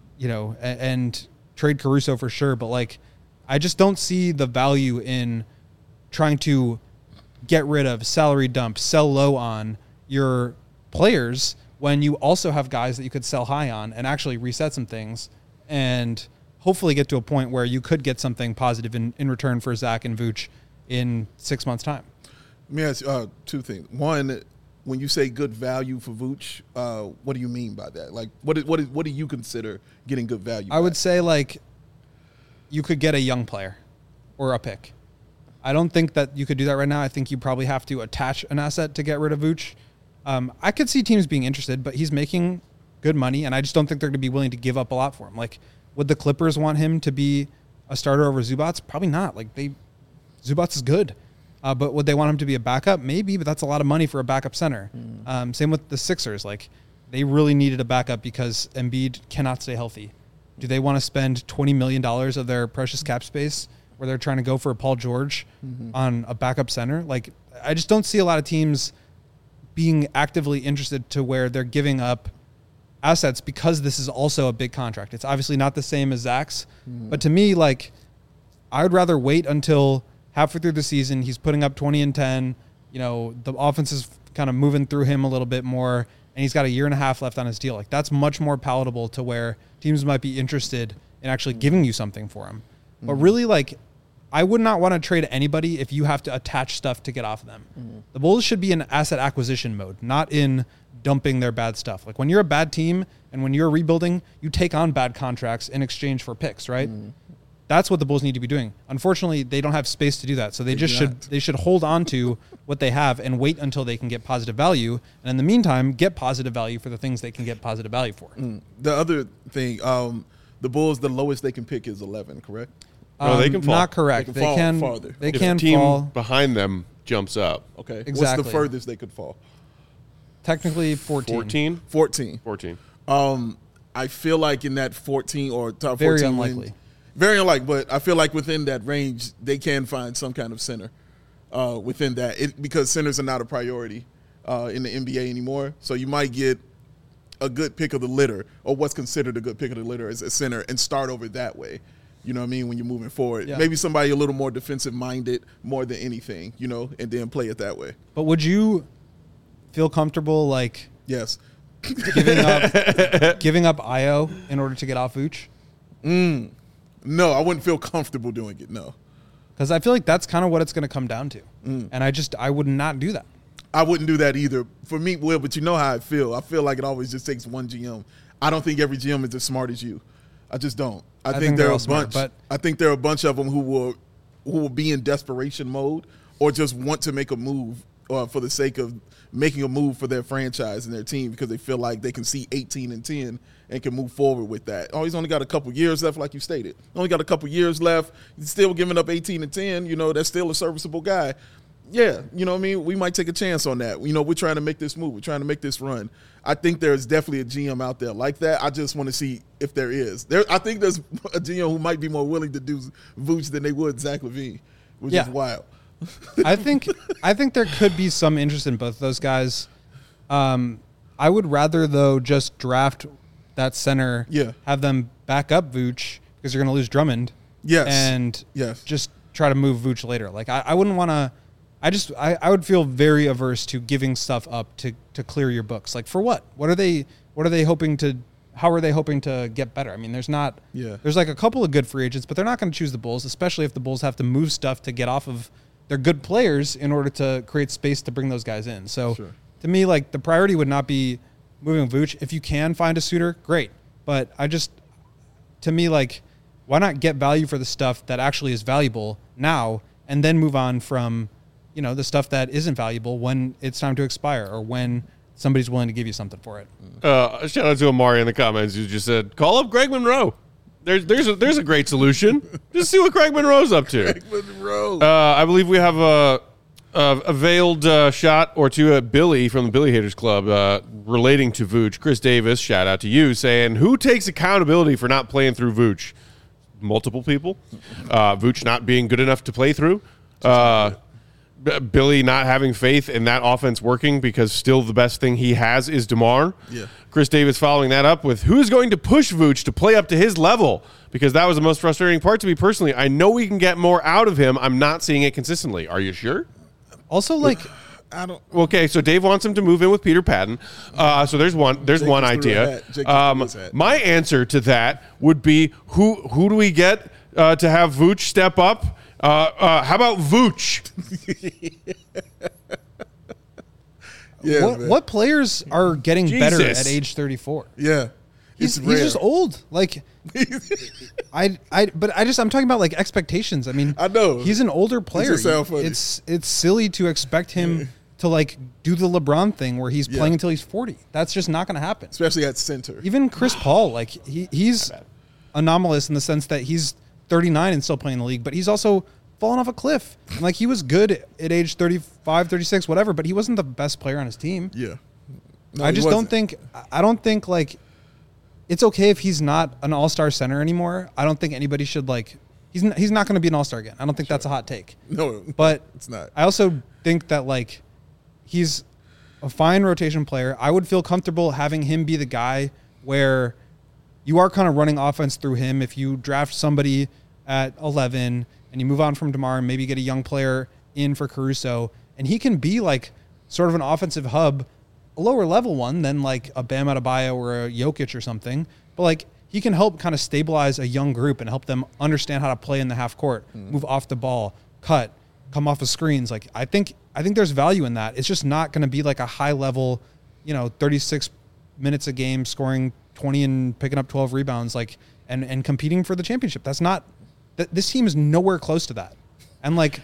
and trade Caruso for sure. But like, I just don't see the value in trying to get rid of, salary dump, sell low on your players when you also have guys that you could sell high on and actually reset some things and hopefully get to a point where you could get something positive in return for Zach and Vooch in 6 months' time. Let me ask you 2 things. One, when you say good value for Vooch, what do you mean by that? Like, what do you consider getting good value? I would say, like, you could get a young player or a pick. I don't think that you could do that right now. I think you probably have to attach an asset to get rid of Vooch. I could see teams being interested, but he's making good money, and I just don't think they're going to be willing to give up a lot for him. Like, would the Clippers want him to be a starter over Zubats? Probably not. Like, Zubats is good. But would they want him to be a backup? Maybe, but that's a lot of money for a backup center. Same with the Sixers. Like, they really needed a backup because Embiid cannot stay healthy. Do they want to spend $20 million of their precious cap space where they're trying to go for Paul George on a backup center? Like, I just don't see a lot of teams being actively interested to where they're giving up assets because this is also a big contract. It's obviously not the same as Zach's, but to me, like, I would rather wait until halfway through the season, he's putting up 20 and 10, the offense is kind of moving through him a little bit more, and he's got a year and a half left on his deal. Like, that's much more palatable to where teams might be interested in actually giving you something for him. But really, like, I would not want to trade anybody if you have to attach stuff to get off of them. The Bulls should be in asset acquisition mode, not in dumping their bad stuff. Like, when you're a bad team and when you're rebuilding, you take on bad contracts in exchange for picks, right? That's what the Bulls need to be doing. Unfortunately, they don't have space to do that. So they should hold on to what they have and wait until they can get positive value. And in the meantime, get positive value for the things they can get positive value for. The other thing, the Bulls, the lowest they can pick is 11, correct? No, they can fall. Not correct. They can fall farther. They If can the team fall. behind them jumps up. Okay. Exactly. What's the furthest they could fall? Technically 14. 14? 14. I feel like in that 14 or top 14 Very unlikely. range, very unlikely, but I feel like within that range, they can find some kind of center within that because centers are not a priority in the NBA anymore. So you might get a good pick of the litter, or what's considered a good pick of the litter as a center, and start over that way. You know what I mean? When you're moving forward, maybe somebody a little more defensive minded more than anything, and then play it that way. But would you feel comfortable, like, Yes. giving up Io in order to get off Vooch? No, I wouldn't feel comfortable doing it. No. Because I feel like that's kind of what it's going to come down to. And I would not do that. I wouldn't do that either. For me, Will, but you know how I feel. I feel like it always just takes one GM. I don't think every GM is as smart as you. I just don't. I think think there they're are all a smart, bunch. I think there are a bunch of them who will be in desperation mode or just want to make a move for the sake of making a move for their franchise and their team because they feel like they can see 18-10 and can move forward with that. Oh, he's only got a couple years left, like you stated. Only got a couple years left. He's still giving up 18-10. You know, that's still a serviceable guy. Yeah, you know what I mean? We might take a chance on that. You know, we're trying to make this move. We're trying to make this run. I think there's definitely a GM out there like that. I just want to see if there is. I think there's a GM who might be more willing to do Vooch than they would Zach LaVine, which is wild. I think there could be some interest in both of those guys. I would rather, though, just draft that center, have them back up Vooch because you're going to lose Drummond, and just try to move Vooch later. Like I wouldn't want to. I would feel very averse to giving stuff up to clear your books. Like for what? What are they hoping to? How are they hoping to get better? I mean, there's like a couple of good free agents, but they're not going to choose the Bulls, especially if the Bulls have to move stuff to get off of their good players in order to create space to bring those guys in. So to me, like the priority would not be moving Vooch. If you can find a suitor, great. But to me, like, why not get value for the stuff that actually is valuable now and then move on from, you know, the stuff that isn't valuable when it's time to expire or when somebody's willing to give you something for it. Shout out to Amari in the comments who just said, call up Greg Monroe. There's a great solution. Just see what Greg Monroe's up to. Greg Monroe. I believe we have a veiled shot or two at Billy from the Billy Haters Club relating to Vooch. Chris Davis, shout out to you, saying, who takes accountability for not playing through Vooch? Multiple people. Vooch not being good enough to play through. Billy not having faith in that offense working because still the best thing he has is DeMar. Yeah. Chris Davis following that up with who's going to push Vooch to play up to his level, because that was the most frustrating part to me personally. I know we can get more out of him. I'm not seeing it consistently. Are you sure? Also, like, I don't. Okay, so Dave wants him to move in with Peter Patton. So there's one idea. My answer to that would be who do we get to have Vooch step up? How about Vooch? What players are getting better at age 34? Yeah. He's just old. Like I'm talking about like expectations. I mean, I know he's an older player. Funny. It's silly to expect him to like do the LeBron thing where he's playing until he's 40. That's just not going to happen. Especially at center. Even Chris Paul, like he's anomalous in the sense that he's 39 and still playing in the league, but he's also fallen off a cliff. And like he was good at age 35, 36, whatever, but he wasn't the best player on his team. Yeah. No, I don't think like it's okay if he's not an all-star center anymore. I don't think anybody should like he's not going to be an all-star again. I don't think that's a hot take. No, but it's not. I also think that like he's a fine rotation player. I would feel comfortable having him be the guy where you are kind of running offense through him. If you draft somebody at 11 and you move on from DeMar and maybe get a young player in for Caruso, and he can be like sort of an offensive hub, a lower level one than like a Bam Adebayo or a Jokic or something, but like he can help kind of stabilize a young group and help them understand how to play in the half court, move off the ball, cut, come off of screens. Like I think there's value in that. It's just not going to be like a high level, 36 minutes a game, scoring 20 and picking up 12 rebounds, like and competing for the championship. That's not. This team is nowhere close to that. And like,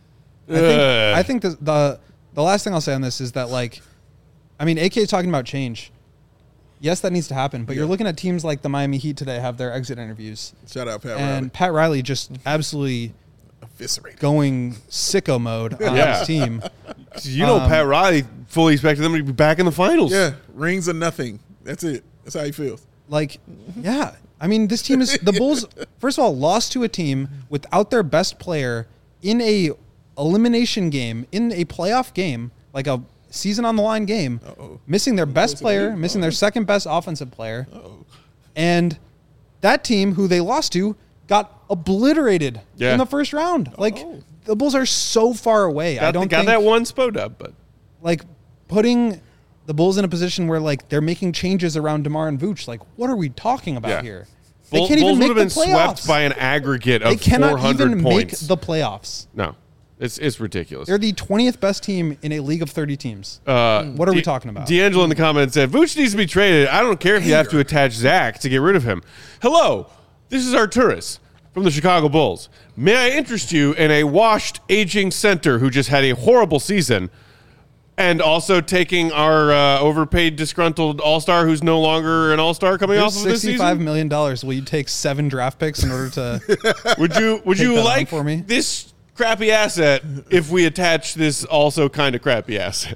I think the last thing I'll say on this is that like, I mean, AK is talking about change. Yes, that needs to happen. But you're looking at teams like the Miami Heat today have their exit interviews. Shout out Pat Riley. And Pat Riley just absolutely eviscerated, going sicko mode on his team. Pat Riley fully expected them to be back in the finals. Yeah, rings or nothing. That's it. That's how he feels. Like, yeah. I mean, this team is – the Bulls, first of all, lost to a team without their best player in a elimination game, in a playoff game, like a season-on-the-line game, missing their best player, missing their second-best offensive player. And that team, who they lost to, got obliterated in the first round. Like, the Bulls are so far away. I don't think that one spot up, but like putting – the Bulls in a position where like they're making changes around DeMar and Vooch. Like, what are we talking about here? They can't even make the playoffs. Bulls would have been swept by an aggregate of 400 points. They cannot even make the playoffs. No. It's ridiculous. They're the 20th best team in a league of 30 teams. What are we talking about? D'Angelo in the comments said, Vooch needs to be traded. I don't care if you have to attach Zach to get rid of him. Hello, this is Arturas from the Chicago Bulls. May I interest you in a washed, aging center who just had a horrible season and also taking our overpaid, disgruntled all-star who's no longer an all-star coming off of this season? $65 million. Will you take 7 draft picks in order to Would you that like on for me? this crappy asset if we attach this also kind of crappy asset?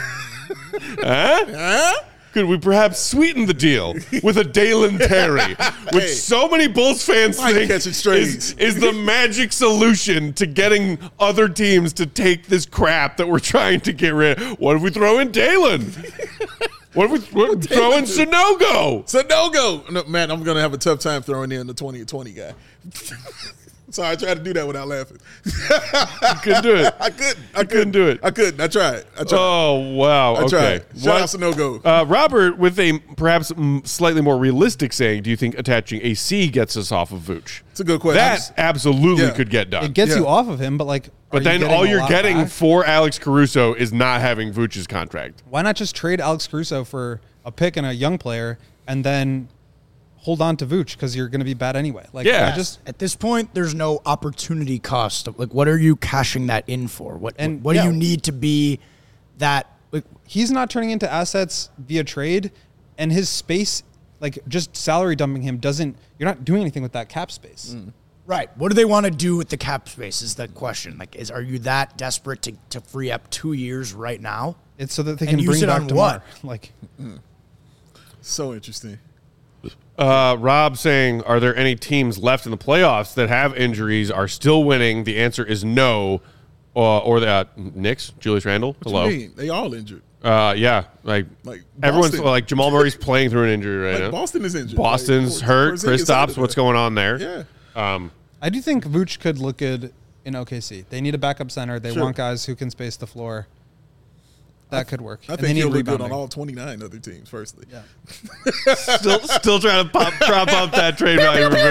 Huh? Could we perhaps sweeten the deal with a Dalen Terry, which so many Bulls fans think catching strays. is the magic solution to getting other teams to take this crap that we're trying to get rid of? What if we throw in Dalen? What if we throw in Sanogo? Sanogo. No, man, I'm going to have a tough time throwing in the 2020 guy. Sorry, I tried to do that without laughing. You couldn't do it. I couldn't do it. I couldn't. I tried. Oh, wow. I tried. Okay. Shout out Sanogo. Robert, with a perhaps slightly more realistic saying, do you think attaching a C gets us off of Vooch? It's a good question. That absolutely Yeah. could get done. it gets you off of him, but like But then all you're getting for Alex Caruso is not having Vooch's contract. why not just trade Alex Caruso for a pick and a young player and then hold on to Vooch because you're going to be bad anyway. Like, Yeah. I just At this point, there's no opportunity cost. Like, what are you cashing that in for? What And, do yeah. you need to be that? Like, he's not turning into assets via trade, and his space, like just salary dumping him, doesn't. You're not doing anything with that cap space. right. What do they want to do with the cap space is the question. Like, are you that desperate to free up 2 years right now? It's so that they And can use bring it back on DeMar. what? Like, So interesting. Rob saying, are there any teams left in the playoffs that have injuries, are still winning? The answer is no. Or the Knicks, Julius Randle. What Hello. you mean? They all injured. Yeah, like everyone's Boston. like Jamal Murray's playing through an injury right now. Boston is injured. Boston's hurt. Kristaps, what's going on there? Yeah. I do think Vooch could look good in OKC. They need a backup center. They Sure. want guys who can space the floor. That could work. I And they think need he'll look good rebounding. on all 29 other teams, firstly. Yeah. Still trying to prop up that trade value for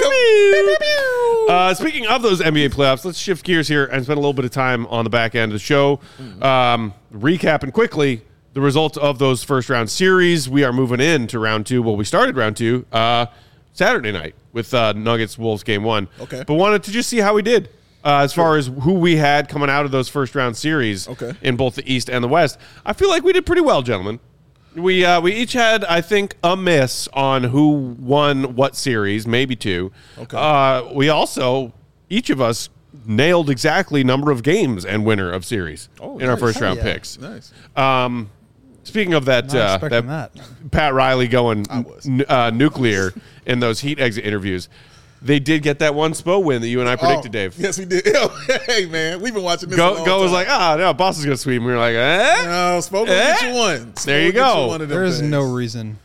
Vooch. Speaking of those NBA playoffs, let's shift gears here and spend a little bit of time on the back end of the show. Recapping quickly the results of those first round series. We are moving into round 2. Well, we started round 2 Saturday night with Nuggets Wolves game 1. Okay. But wanted to just see how we did. As far as who we had coming out of those first round series in both the East and the West. I feel like we did pretty well, gentlemen. We each had, I think, a miss on who won what series, maybe 2. Okay. We also, each of us, nailed exactly number of games and winner of series in our nice. first round Yeah. picks. Nice. Speaking of that, Not expecting that. Pat Riley going was. nuclear in those Heat exit interviews. They did get that one SPO win that you and I predicted, Dave. Yes, we did. Hey, man, we've been watching this. a long Go was time. like, no, Boston's going to sweep. And we were like, eh? No, Spo gonna get you one. Spo There you gonna get go. one of them There is things. no reason.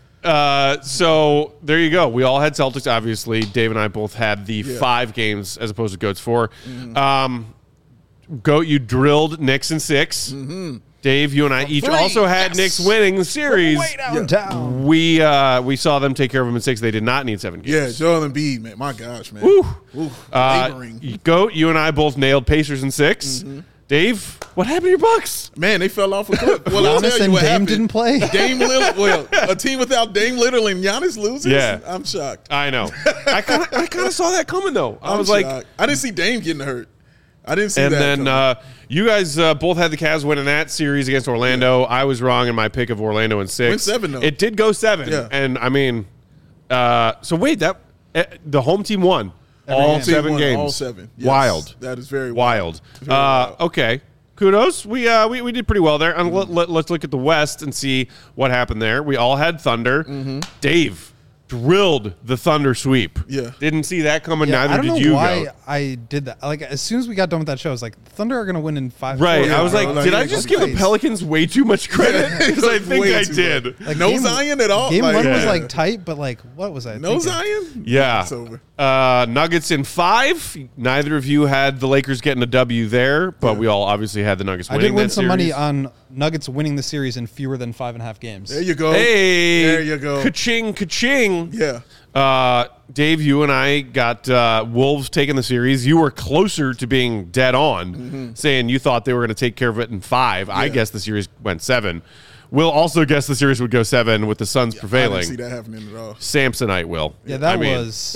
So there you go. We all had Celtics, obviously. Dave and I both had the 5 games as opposed to Goat's 4. Goat, you drilled Knicks in 6. Dave, you and I each 3. also had Yes. Knicks winning the series. Downtown. We saw them take care of them in 6. They did not need 7 games. Yeah, Joel Embiid, man. My gosh, man. Woo. Laboring. Goat, you and I both nailed Pacers in 6. Dave, what happened to your Bucks? Man, they fell off a cliff. Well, I'll Giannis tell you and what Dame happened. didn't play? Dame Lillard. Well, a team without Dame Lillard and Giannis loses. Yeah. I'm shocked. I know. I kind of saw that coming though. I I'm was like, shocked. I didn't see Dame getting hurt. I didn't see and that. then coming. you guys both had the Cavs winning that series against Orlando. I was wrong in my pick of Orlando in 6. Went 7, though. It did go 7. Yeah. And I mean, so wait, the home team won all game. 7 Won games. All 7. Yes. Wild. That is very Wild. Very wild. Okay. Kudos. We did pretty well there. And let's look at the West and see what happened there. We all had Thunder. Dave drilled the Thunder sweep. Yeah. Didn't see that coming. Yeah, Neither I don't did know you. why Goat. I did that. Like, as soon as we got done with that show, I was like, Thunder are going to win in 5. Right. Yeah, I was bro. like, Like, did I like, just give the nice. Pelicans way too much credit? Because I think Way I too did. much. Like, No game- Zion at all. Game Like, 1 was Yeah. like tight, but like, what was I no thinking? Zion. Yeah. It's over. Nuggets in 5. Neither of you had the Lakers getting a W there, but we all obviously had the Nuggets I winning did win that some money series. on Nuggets winning the series in fewer than 5.5 games. There you go. Hey, There you go. Ka-ching, ka-ching. wrong. Yeah. Dave, you and I got Wolves taking the series. You were closer to being dead on, saying you thought they were going to take care of it in 5. I guess the series went 7. Will also guess the series would go 7 with the Suns I prevailing. didn't see that happening at all. Samsonite will. Yeah, that I mean, was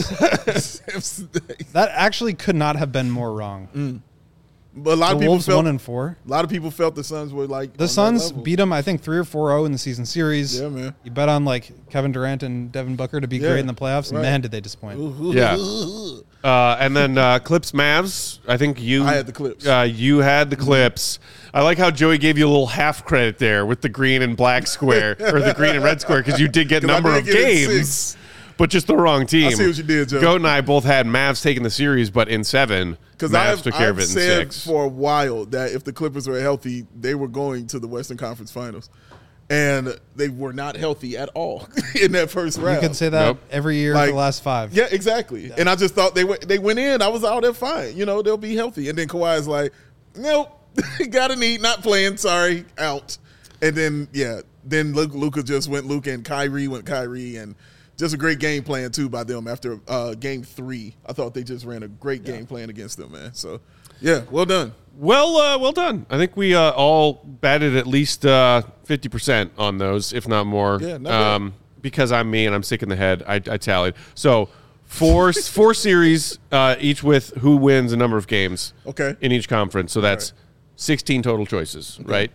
that actually could not have been more wrong. But a lot The of people Wolves felt 1-4. a lot of people felt the Suns were like on The that Suns level. beat them, I think, 3 or 4-0 in the season series. Yeah, man. You bet on like Kevin Durant and Devin Booker to be Yeah, great in the playoffs. right. Man, did they disappoint? Yeah. And then Clips Mavs. I think you. I had the Clips. You had the Clips. I like how Joey gave you a little half credit there with the green and black square or the green and red square because you did get 'Cause I number did of get it games, 6. but just the wrong team. I see what you did, Joe. Goat and I both had Mavs taking the series, but in 7, Because Mavs took care of I've it in said 6. for a while that if the Clippers were healthy, they were going to the Western Conference Finals. And they were not healthy at all in that first round. You could say that Nope. every year Like, for the last 5. Yeah, exactly. And I just thought they went in. I was out there fine. You know, they'll be healthy. And then Kawhi's like, nope, got a knee, not playing. Sorry, out. And then, then Luka just went Luka and Kyrie went Kyrie. And just a great game plan, too, by them after game 3. I thought they just ran a great game plan against them, man. So, yeah, well done. Well done. I think we all batted at least 50% on those, if not more. Yeah, not bad. Because I'm me and I'm sick in the head, I tallied. So 4 series, each with who wins a number of games. Okay. In each conference. So that's 16 total choices, right?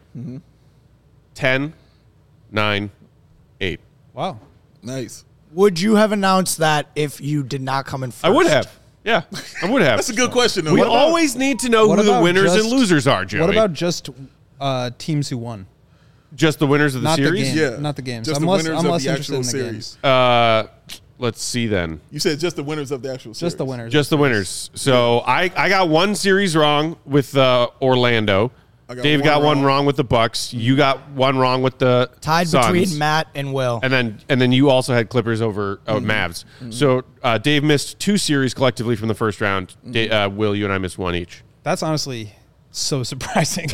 10, 9, 8. Wow. Nice. Would you have announced that if you did not come in first? I would have. Yeah, I would have. That's a good question, though. We What about- always need to know What who the about winners and just- losers are, Joey. What about just teams who won? just the winners of the Not the series? game. Yeah. Not the games. Just I'm the less, winners I'm of less the interested actual in the series. games. Let's see then. You said just the winners of the actual series. Just the winners. Just the winners. So I got one series wrong with Orlando. I got Dave one got one wrong. wrong with the Bucks. You got one wrong with the Tied Suns. between Matt and Will. And then you also had Clippers over Mavs. So Dave missed 2 series collectively from the first round. Will, you and I missed 1 each. That's honestly so surprising.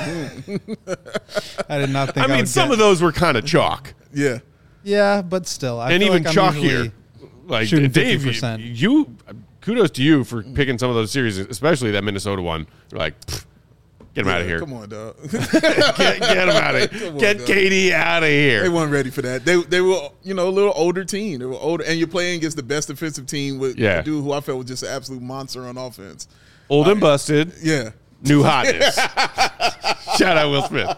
I did not think. I mean, would some get- of those were kind of chalk. Yeah. Yeah, but still, I And feel even like I'm chalkier. usually Like shooting Dave, 50%. you kudos to you for picking some of those series, especially that Minnesota one. You're like, pfft, get him out of here. Come on, dog. Get him out of here. Come on, Get dog. KD out of They here. weren't ready for that. They were, a little older team. They were older, and you're playing against the best defensive team with a dude who I felt was just an absolute monster on offense. Old and busted. Yeah. New hotness. Shout out Will Smith.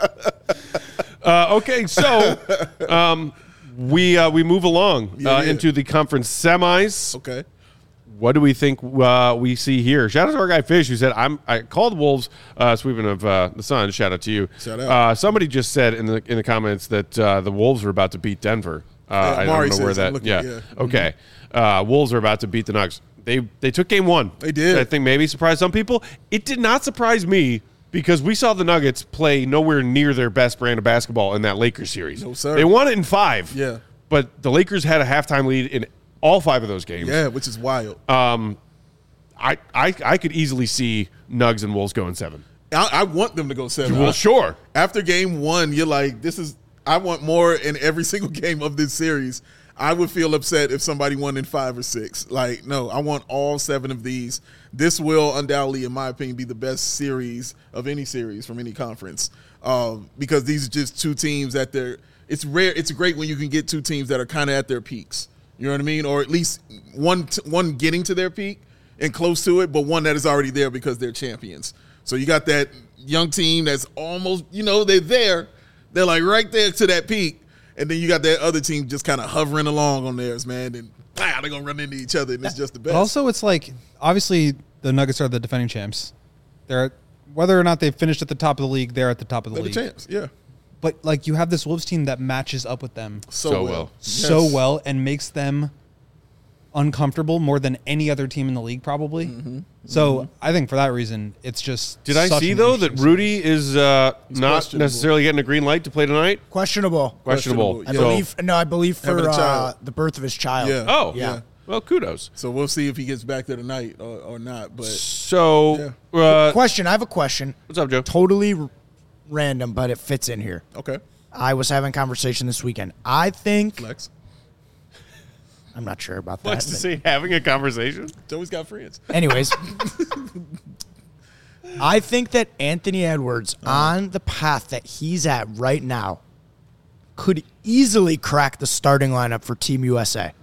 Okay, so we move along Yeah. into the conference semis. Okay. What do we think we see here? Shout out to our guy Fish who said I called Wolves sweeping of the Suns. Shout out to you. Shout out. Somebody just said in the comments that the Wolves were about to beat Denver. I Mari don't know where says, I'm that. looking, Yeah. yeah. Okay. Wolves are about to beat the Nuggets. They took game 1. They did. I think maybe surprised some people. It did not surprise me because we saw the Nuggets play nowhere near their best brand of basketball in that Lakers series. No, sir. They won it in 5. Yeah. But the Lakers had a halftime lead in all 5 of those games. Yeah, which is wild. I could easily see Nugs and Wolves going 7. I want them to go 7. Well, sure. After game 1, you're like, I want more in every single game of this series. I would feel upset if somebody won in 5 or 6. Like, no, I want all 7 of these. This will undoubtedly, in my opinion, be the best series of any series from any conference because these are just 2 teams that it's rare. It's great when you can get 2 teams that are kind of at their peaks. You know what I mean? Or at least one getting to their peak and close to it, but one that is already there because they're champions. So you got that young team that's almost, they're there. They're like right there to that peak. And then you got that other team just kind of hovering along on theirs, man. And they're going to run into each other, and it's just the best. But also, it's like obviously the Nuggets are the defending champs. Whether or not they finished at the top of the league, they're at the top of the they're league. the champs, yeah. But like you have this Wolves team that matches up with them So well. so Yes. well and makes them uncomfortable more than any other team in the league, probably. So I think for that reason, it's just. Did I such see, an though, that interesting Rudy is not questionable. necessarily getting a green light to play tonight? Questionable. Questionable. Questionable, I believe Having for a child. the birth of his child. Yeah. Oh, Yeah. Well, kudos. So we'll see if he gets back there tonight or not. But So, Question. I have a question. what's up, Joe? Totally random, but it fits in here. okay, I was having a conversation this weekend. I think Lex. I'm not sure about What's that. to say having a conversation? Joey's got friends. Anyways, I think that Anthony Edwards, on the path that he's at right now, could easily crack the starting lineup for Team USA,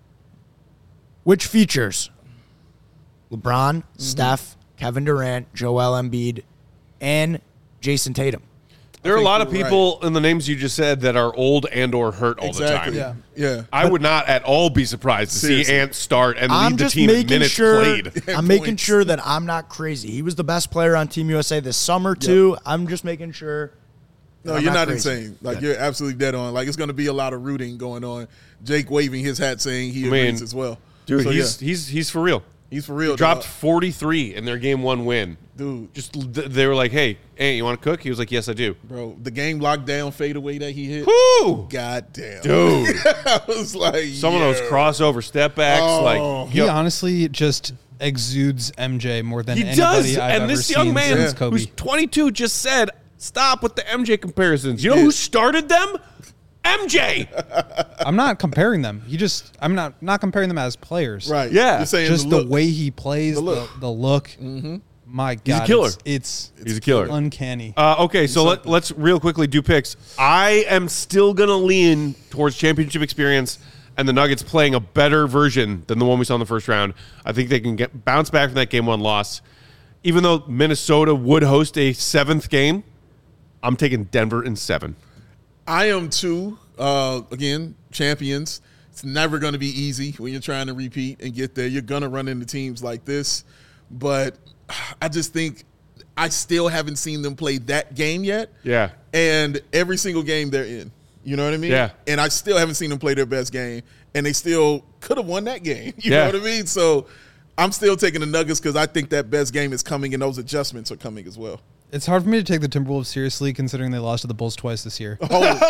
which features LeBron, Steph, Kevin Durant, Joel Embiid, and Jason Tatum. There are a think lot of you're people in the names you just said that are old and or hurt all Exactly. the time. Yeah. I would not at all be surprised to Seriously. see Ant start and I'm lead the just team in making minutes sure. played. I'm making Points. sure that I'm not crazy. He was the best player on Team USA this summer too. I'm just making sure. No, I'm you're not crazy. insane. Like, you're absolutely dead on. Like, it's going to be a lot of rooting going on. Jake waving his hat saying he agrees as well. Dude, So, he's for real. he's for real. Dropped dog. 43 in their game 1 win. Dude. Just they were like, "Hey, you want to cook?" He was like, "Yes, I do." Bro, the game lockdown fadeaway that he hit. Woo! God damn. Dude. I was like, Some of those crossover step backs, Oh. like He honestly just exudes MJ more than he anybody does. I've And ever this young seen man since Kobe. who's 22 just said, "Stop with the MJ comparisons." You know who started them? MJ. I'm not comparing them. I'm not comparing them as players. Right. Yeah. You're saying Just the the look. way he plays, The look. the look. Mm-hmm. My God, killer. It's He's a killer. uncanny. Okay, so let's real quickly do picks. I am still going to lean towards championship experience and the Nuggets playing a better version than the one we saw in the first round. I think they can bounce back from that game 1 loss. Even though Minnesota would host a 7th game, I'm taking Denver in 7. I am too. Again, champions. It's never going to be easy when you're trying to repeat and get there. You're going to run into teams like this. But I just think I still haven't seen them play that game yet. Yeah. And every single game they're in. You know what I mean? Yeah. And I still haven't seen them play their best game. And they still could have won that game. You Yeah. know what I mean? So I'm still taking the Nuggets because I think that best game is coming and those adjustments are coming as well. It's hard for me to take the Timberwolves seriously considering they lost to the Bulls twice this year.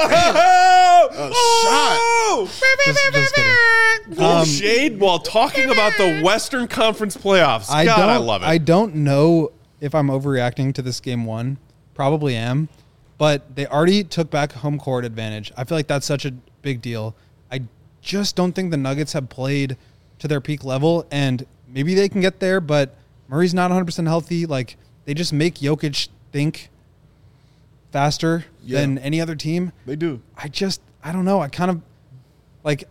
Just kidding. Full shade while talking about the Western Conference playoffs. I love it. I don't know if I'm overreacting to this game 1. Probably am. But they already took back home court advantage. I feel like that's such a big deal. I just don't think the Nuggets have played to their peak level, and maybe they can get there, but Murray's not 100% healthy. Like, they just make Jokic think faster than any other team. They do. I don't know. I kind of like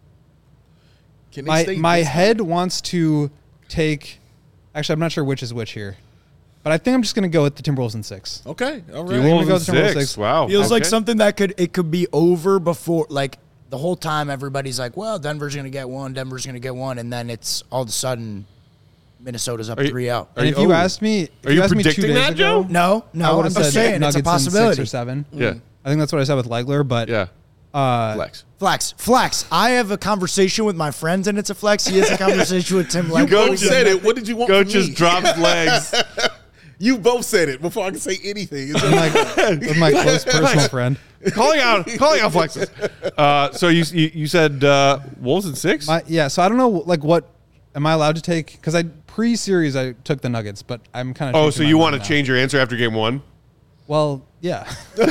Can they stay my this head wants to take. Actually, I'm not sure which is which here, but I think I'm just going to go with the Timberwolves in 6. Okay. All right. gonna Timberwolves go in with the Timberwolves 6. 6. Wow. Feels like Okay. something that could be over before, like the whole time everybody's like, well, Denver's going to get one, and then it's all of a sudden Minnesota's up Are you- 3-0. And if you asked me, Are you me 2 predicting days that, ago, Joe? No, I would I'm have just said saying Nuggets it's a in 6 possibility. or 7. Yeah. I think that's what I said with Legler, but Yeah. Flex. Flex. I have a conversation with my friends, and it's a flex. He has a conversation with Tim. You Legler. both said it. What did you want Coach from just me? drops legs. You both said it before I can say anything. It's With my close personal friend. calling out flexes. So you said Wolves in 6? So I don't know, like, what am I allowed to take? Because pre-series I took the Nuggets, but I'm kind of. Oh, so you want to change your answer after game 1? Well, yeah.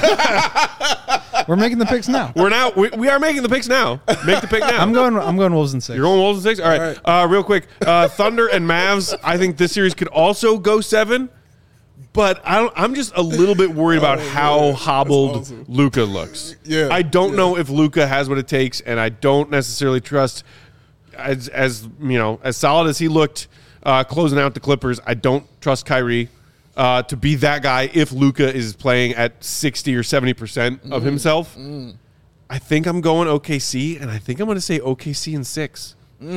We're making the picks now. We are making the picks now. Make the pick now. I'm going Wolves in 6. You're going Wolves in 6? All right. Real quick. Thunder and Mavs, I think this series could also go 7. But I'm just a little bit worried about how hobbled awesome. Luka looks. Yeah, I don't know if Luka has what it takes, and I don't necessarily trust as solid as he looked closing out the Clippers. I don't trust Kyrie to be that guy if Luka is playing at 60 or 70% of himself. I think I'm going OKC, and I think I'm going to say OKC in 6.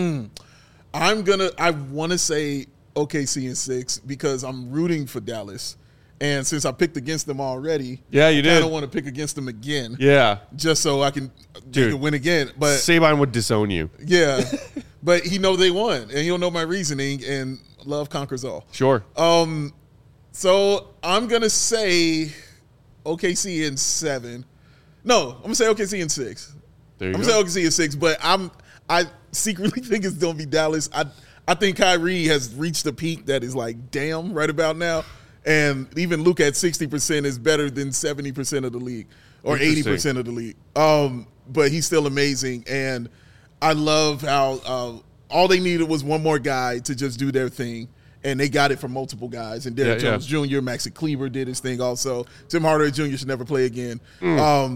I want to say OKC in 6 because I'm rooting for Dallas. And since I picked against them already, Yeah, you I did. don't want to pick against them again. Yeah. Just so I can Dude. win again. But Sabine would disown you. yeah. But he know they won. And he'll know my reasoning, and love conquers all. Sure. So I'm going to say OKC in 7. No, I'm going to say OKC in 6. There you I'm go. going to say OKC in 6, but I secretly think it's going to be Dallas. I think Kyrie has reached a peak that is like, damn, right about now. And even Luke at 60% is better than 70% of the league or 80% of the league. But he's still amazing. And I love how all they needed was one more guy to just do their thing, and they got it from multiple guys. And Derrick Jones Jr., Maxi Kleber did his thing also. Tim Hardaway Jr. should never play again. I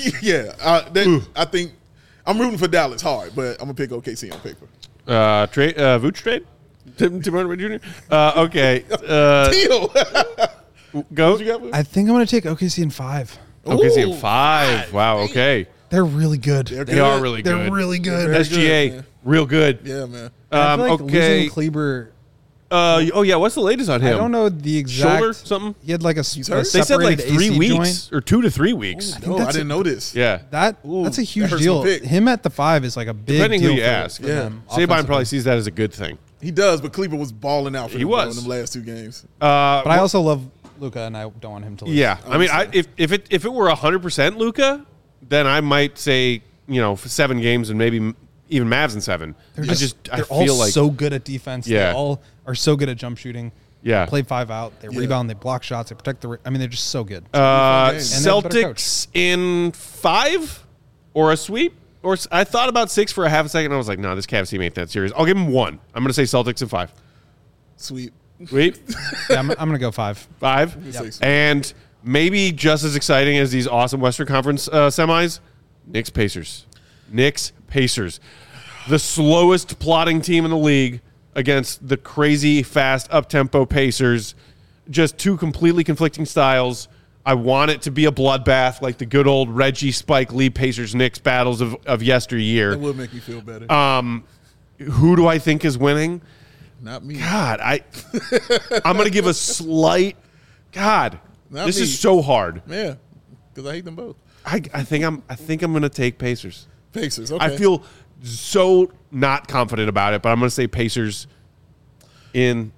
think I'm rooting for Dallas hard, but I'm going to pick OKC on paper. Vooch trade? Tim Hardaway Jr.? Okay. Deal. Go. I think I'm going to take OKC in 5. OKC in 5. Wow, okay. They're really good. They are really good. They're really good. SGA, good, real good. Yeah, man. I feel like okay. losing Kleber. What's the latest on him? I don't know the exact. Shoulder, something? He had like a hurt? They said like separated 3 AC weeks joint. or 2 to 3 weeks. No, I didn't know this. Yeah. That's a that huge hurts deal. my pick. Him at the 5 is like a big Depending deal who you for- ask. for Yeah. them Saban offensively. probably sees that as a good thing. He does, but Kleber was balling out for He them, bro, was. in them last 2 games. But I also love Luka, and I don't want him to lose. Yeah. I mean, if it were 100% Luka, then I might say, 7 games and maybe even Mavs in 7. They're I they're feel all like so good at defense. Yeah. They all are so good at jump shooting. Yeah. They play 5 out. They rebound. They block shots. They protect the. I mean, they're just so good. game. And they're a better Celtics in 5 or a sweep. Or I thought about 6 for a half a second. I was like, no, this Cavs team ain't that serious. I'll give them 1. I'm going to say Celtics in 5. Sweet. Sweep. Yeah, I'm going to go 5. 5. Say sweet. And maybe just as exciting as these awesome Western Conference semis, Knicks Pacers. Knicks Pacers. The slowest plotting team in the league against the crazy fast up-tempo Pacers. Just 2 completely conflicting styles. I want it to be a bloodbath like the good old Reggie, Spike Lee, Pacers, Knicks battles of yesteryear. That would make me feel better. Who do I think is winning? Not me. God, I'm going to give a slight. God, Not this me. is so hard. Yeah, because I hate them both. I think I'm going to take Pacers. Pacers. Okay. I feel so not confident about it, but I'm going to say Pacers in.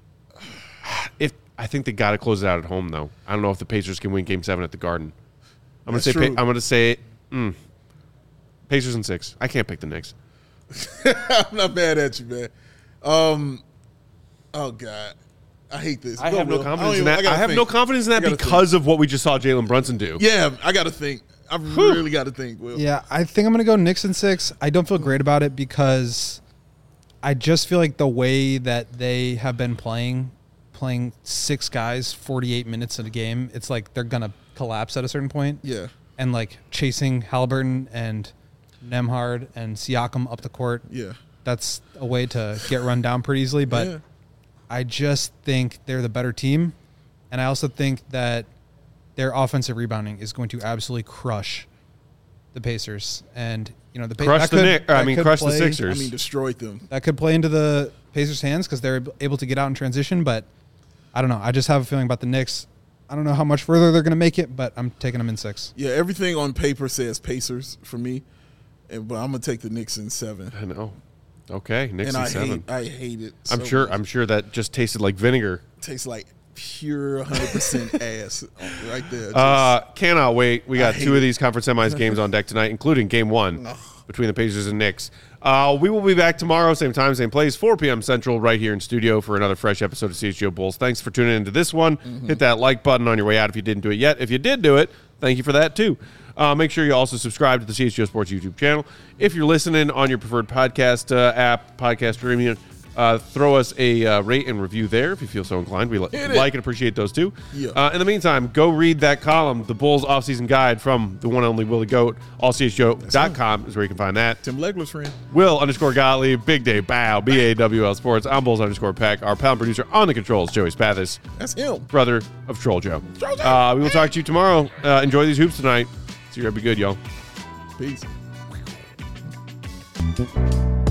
I think they got to close it out at home though. I don't know if the Pacers can win Game 7 at the Garden. I'm going to say. True. I'm going to say Pacers in 6. I can't pick the Knicks. I'm not mad at you, man. Oh God, I hate this. I Go, have no Will. confidence in I that. gotta I have think. no confidence in that I gotta because of what we just saw Jalen Brunson do. Yeah, I got to think. I really got to think, Will. Yeah, I think I'm going to go Knicks in 6. I don't feel great about it because I just feel like the way that they have been playing 6 guys 48 minutes in a game, it's like they're going to collapse at a certain point. Yeah. And like chasing Halliburton and Nembhard and Siakam up the court. Yeah. That's a way to get run down pretty easily. But Yeah. I just think they're the better team. And I also think that their offensive rebounding is going to absolutely crush the Pacers. And, the Crush the Sixers. I mean, destroyed them. That could play into the Pacers' hands because they're able to get out in transition. But I don't know. I just have a feeling about the Knicks. I don't know how much further they're going to make it, but I'm taking them in 6. Yeah, everything on paper says Pacers for me, but I'm gonna take the Knicks in 7. I know. Okay, Knicks And in 7. I hate it. I'm so sure. much. I'm sure that just tasted like vinegar. Tastes like pure 100% ass right there. Just- Cannot wait. We got hate 2 of it. these conference semis games on deck tonight, including Game 1 between the Pacers and Knicks. We will be back tomorrow, same time, same place, 4 p.m. Central, right here in studio for another fresh episode of CHGO Bulls. Thanks for tuning into this one. Hit that like button on your way out if you didn't do it yet. If you did do it, thank you for that too. Make sure you also subscribe to the CHGO Sports YouTube channel. If you're listening on your preferred podcast app, podcast streaming, throw us a rate and review there if you feel so inclined. We like and appreciate those too. Yeah. In the meantime, go read that column, the Bulls offseason guide from the one and only Willie Goat. AllCHGO.com is where you can find that. Tim Legler's friend. Will_Gottlieb, Big Day Bow, BAWL Sports. I'm Bulls_Peck. Our pound producer on the controls, Joey Spathis, That's him. brother of Troll Joe. We will talk to you tomorrow. Enjoy these hoops tonight. See you. Be good, y'all. Peace.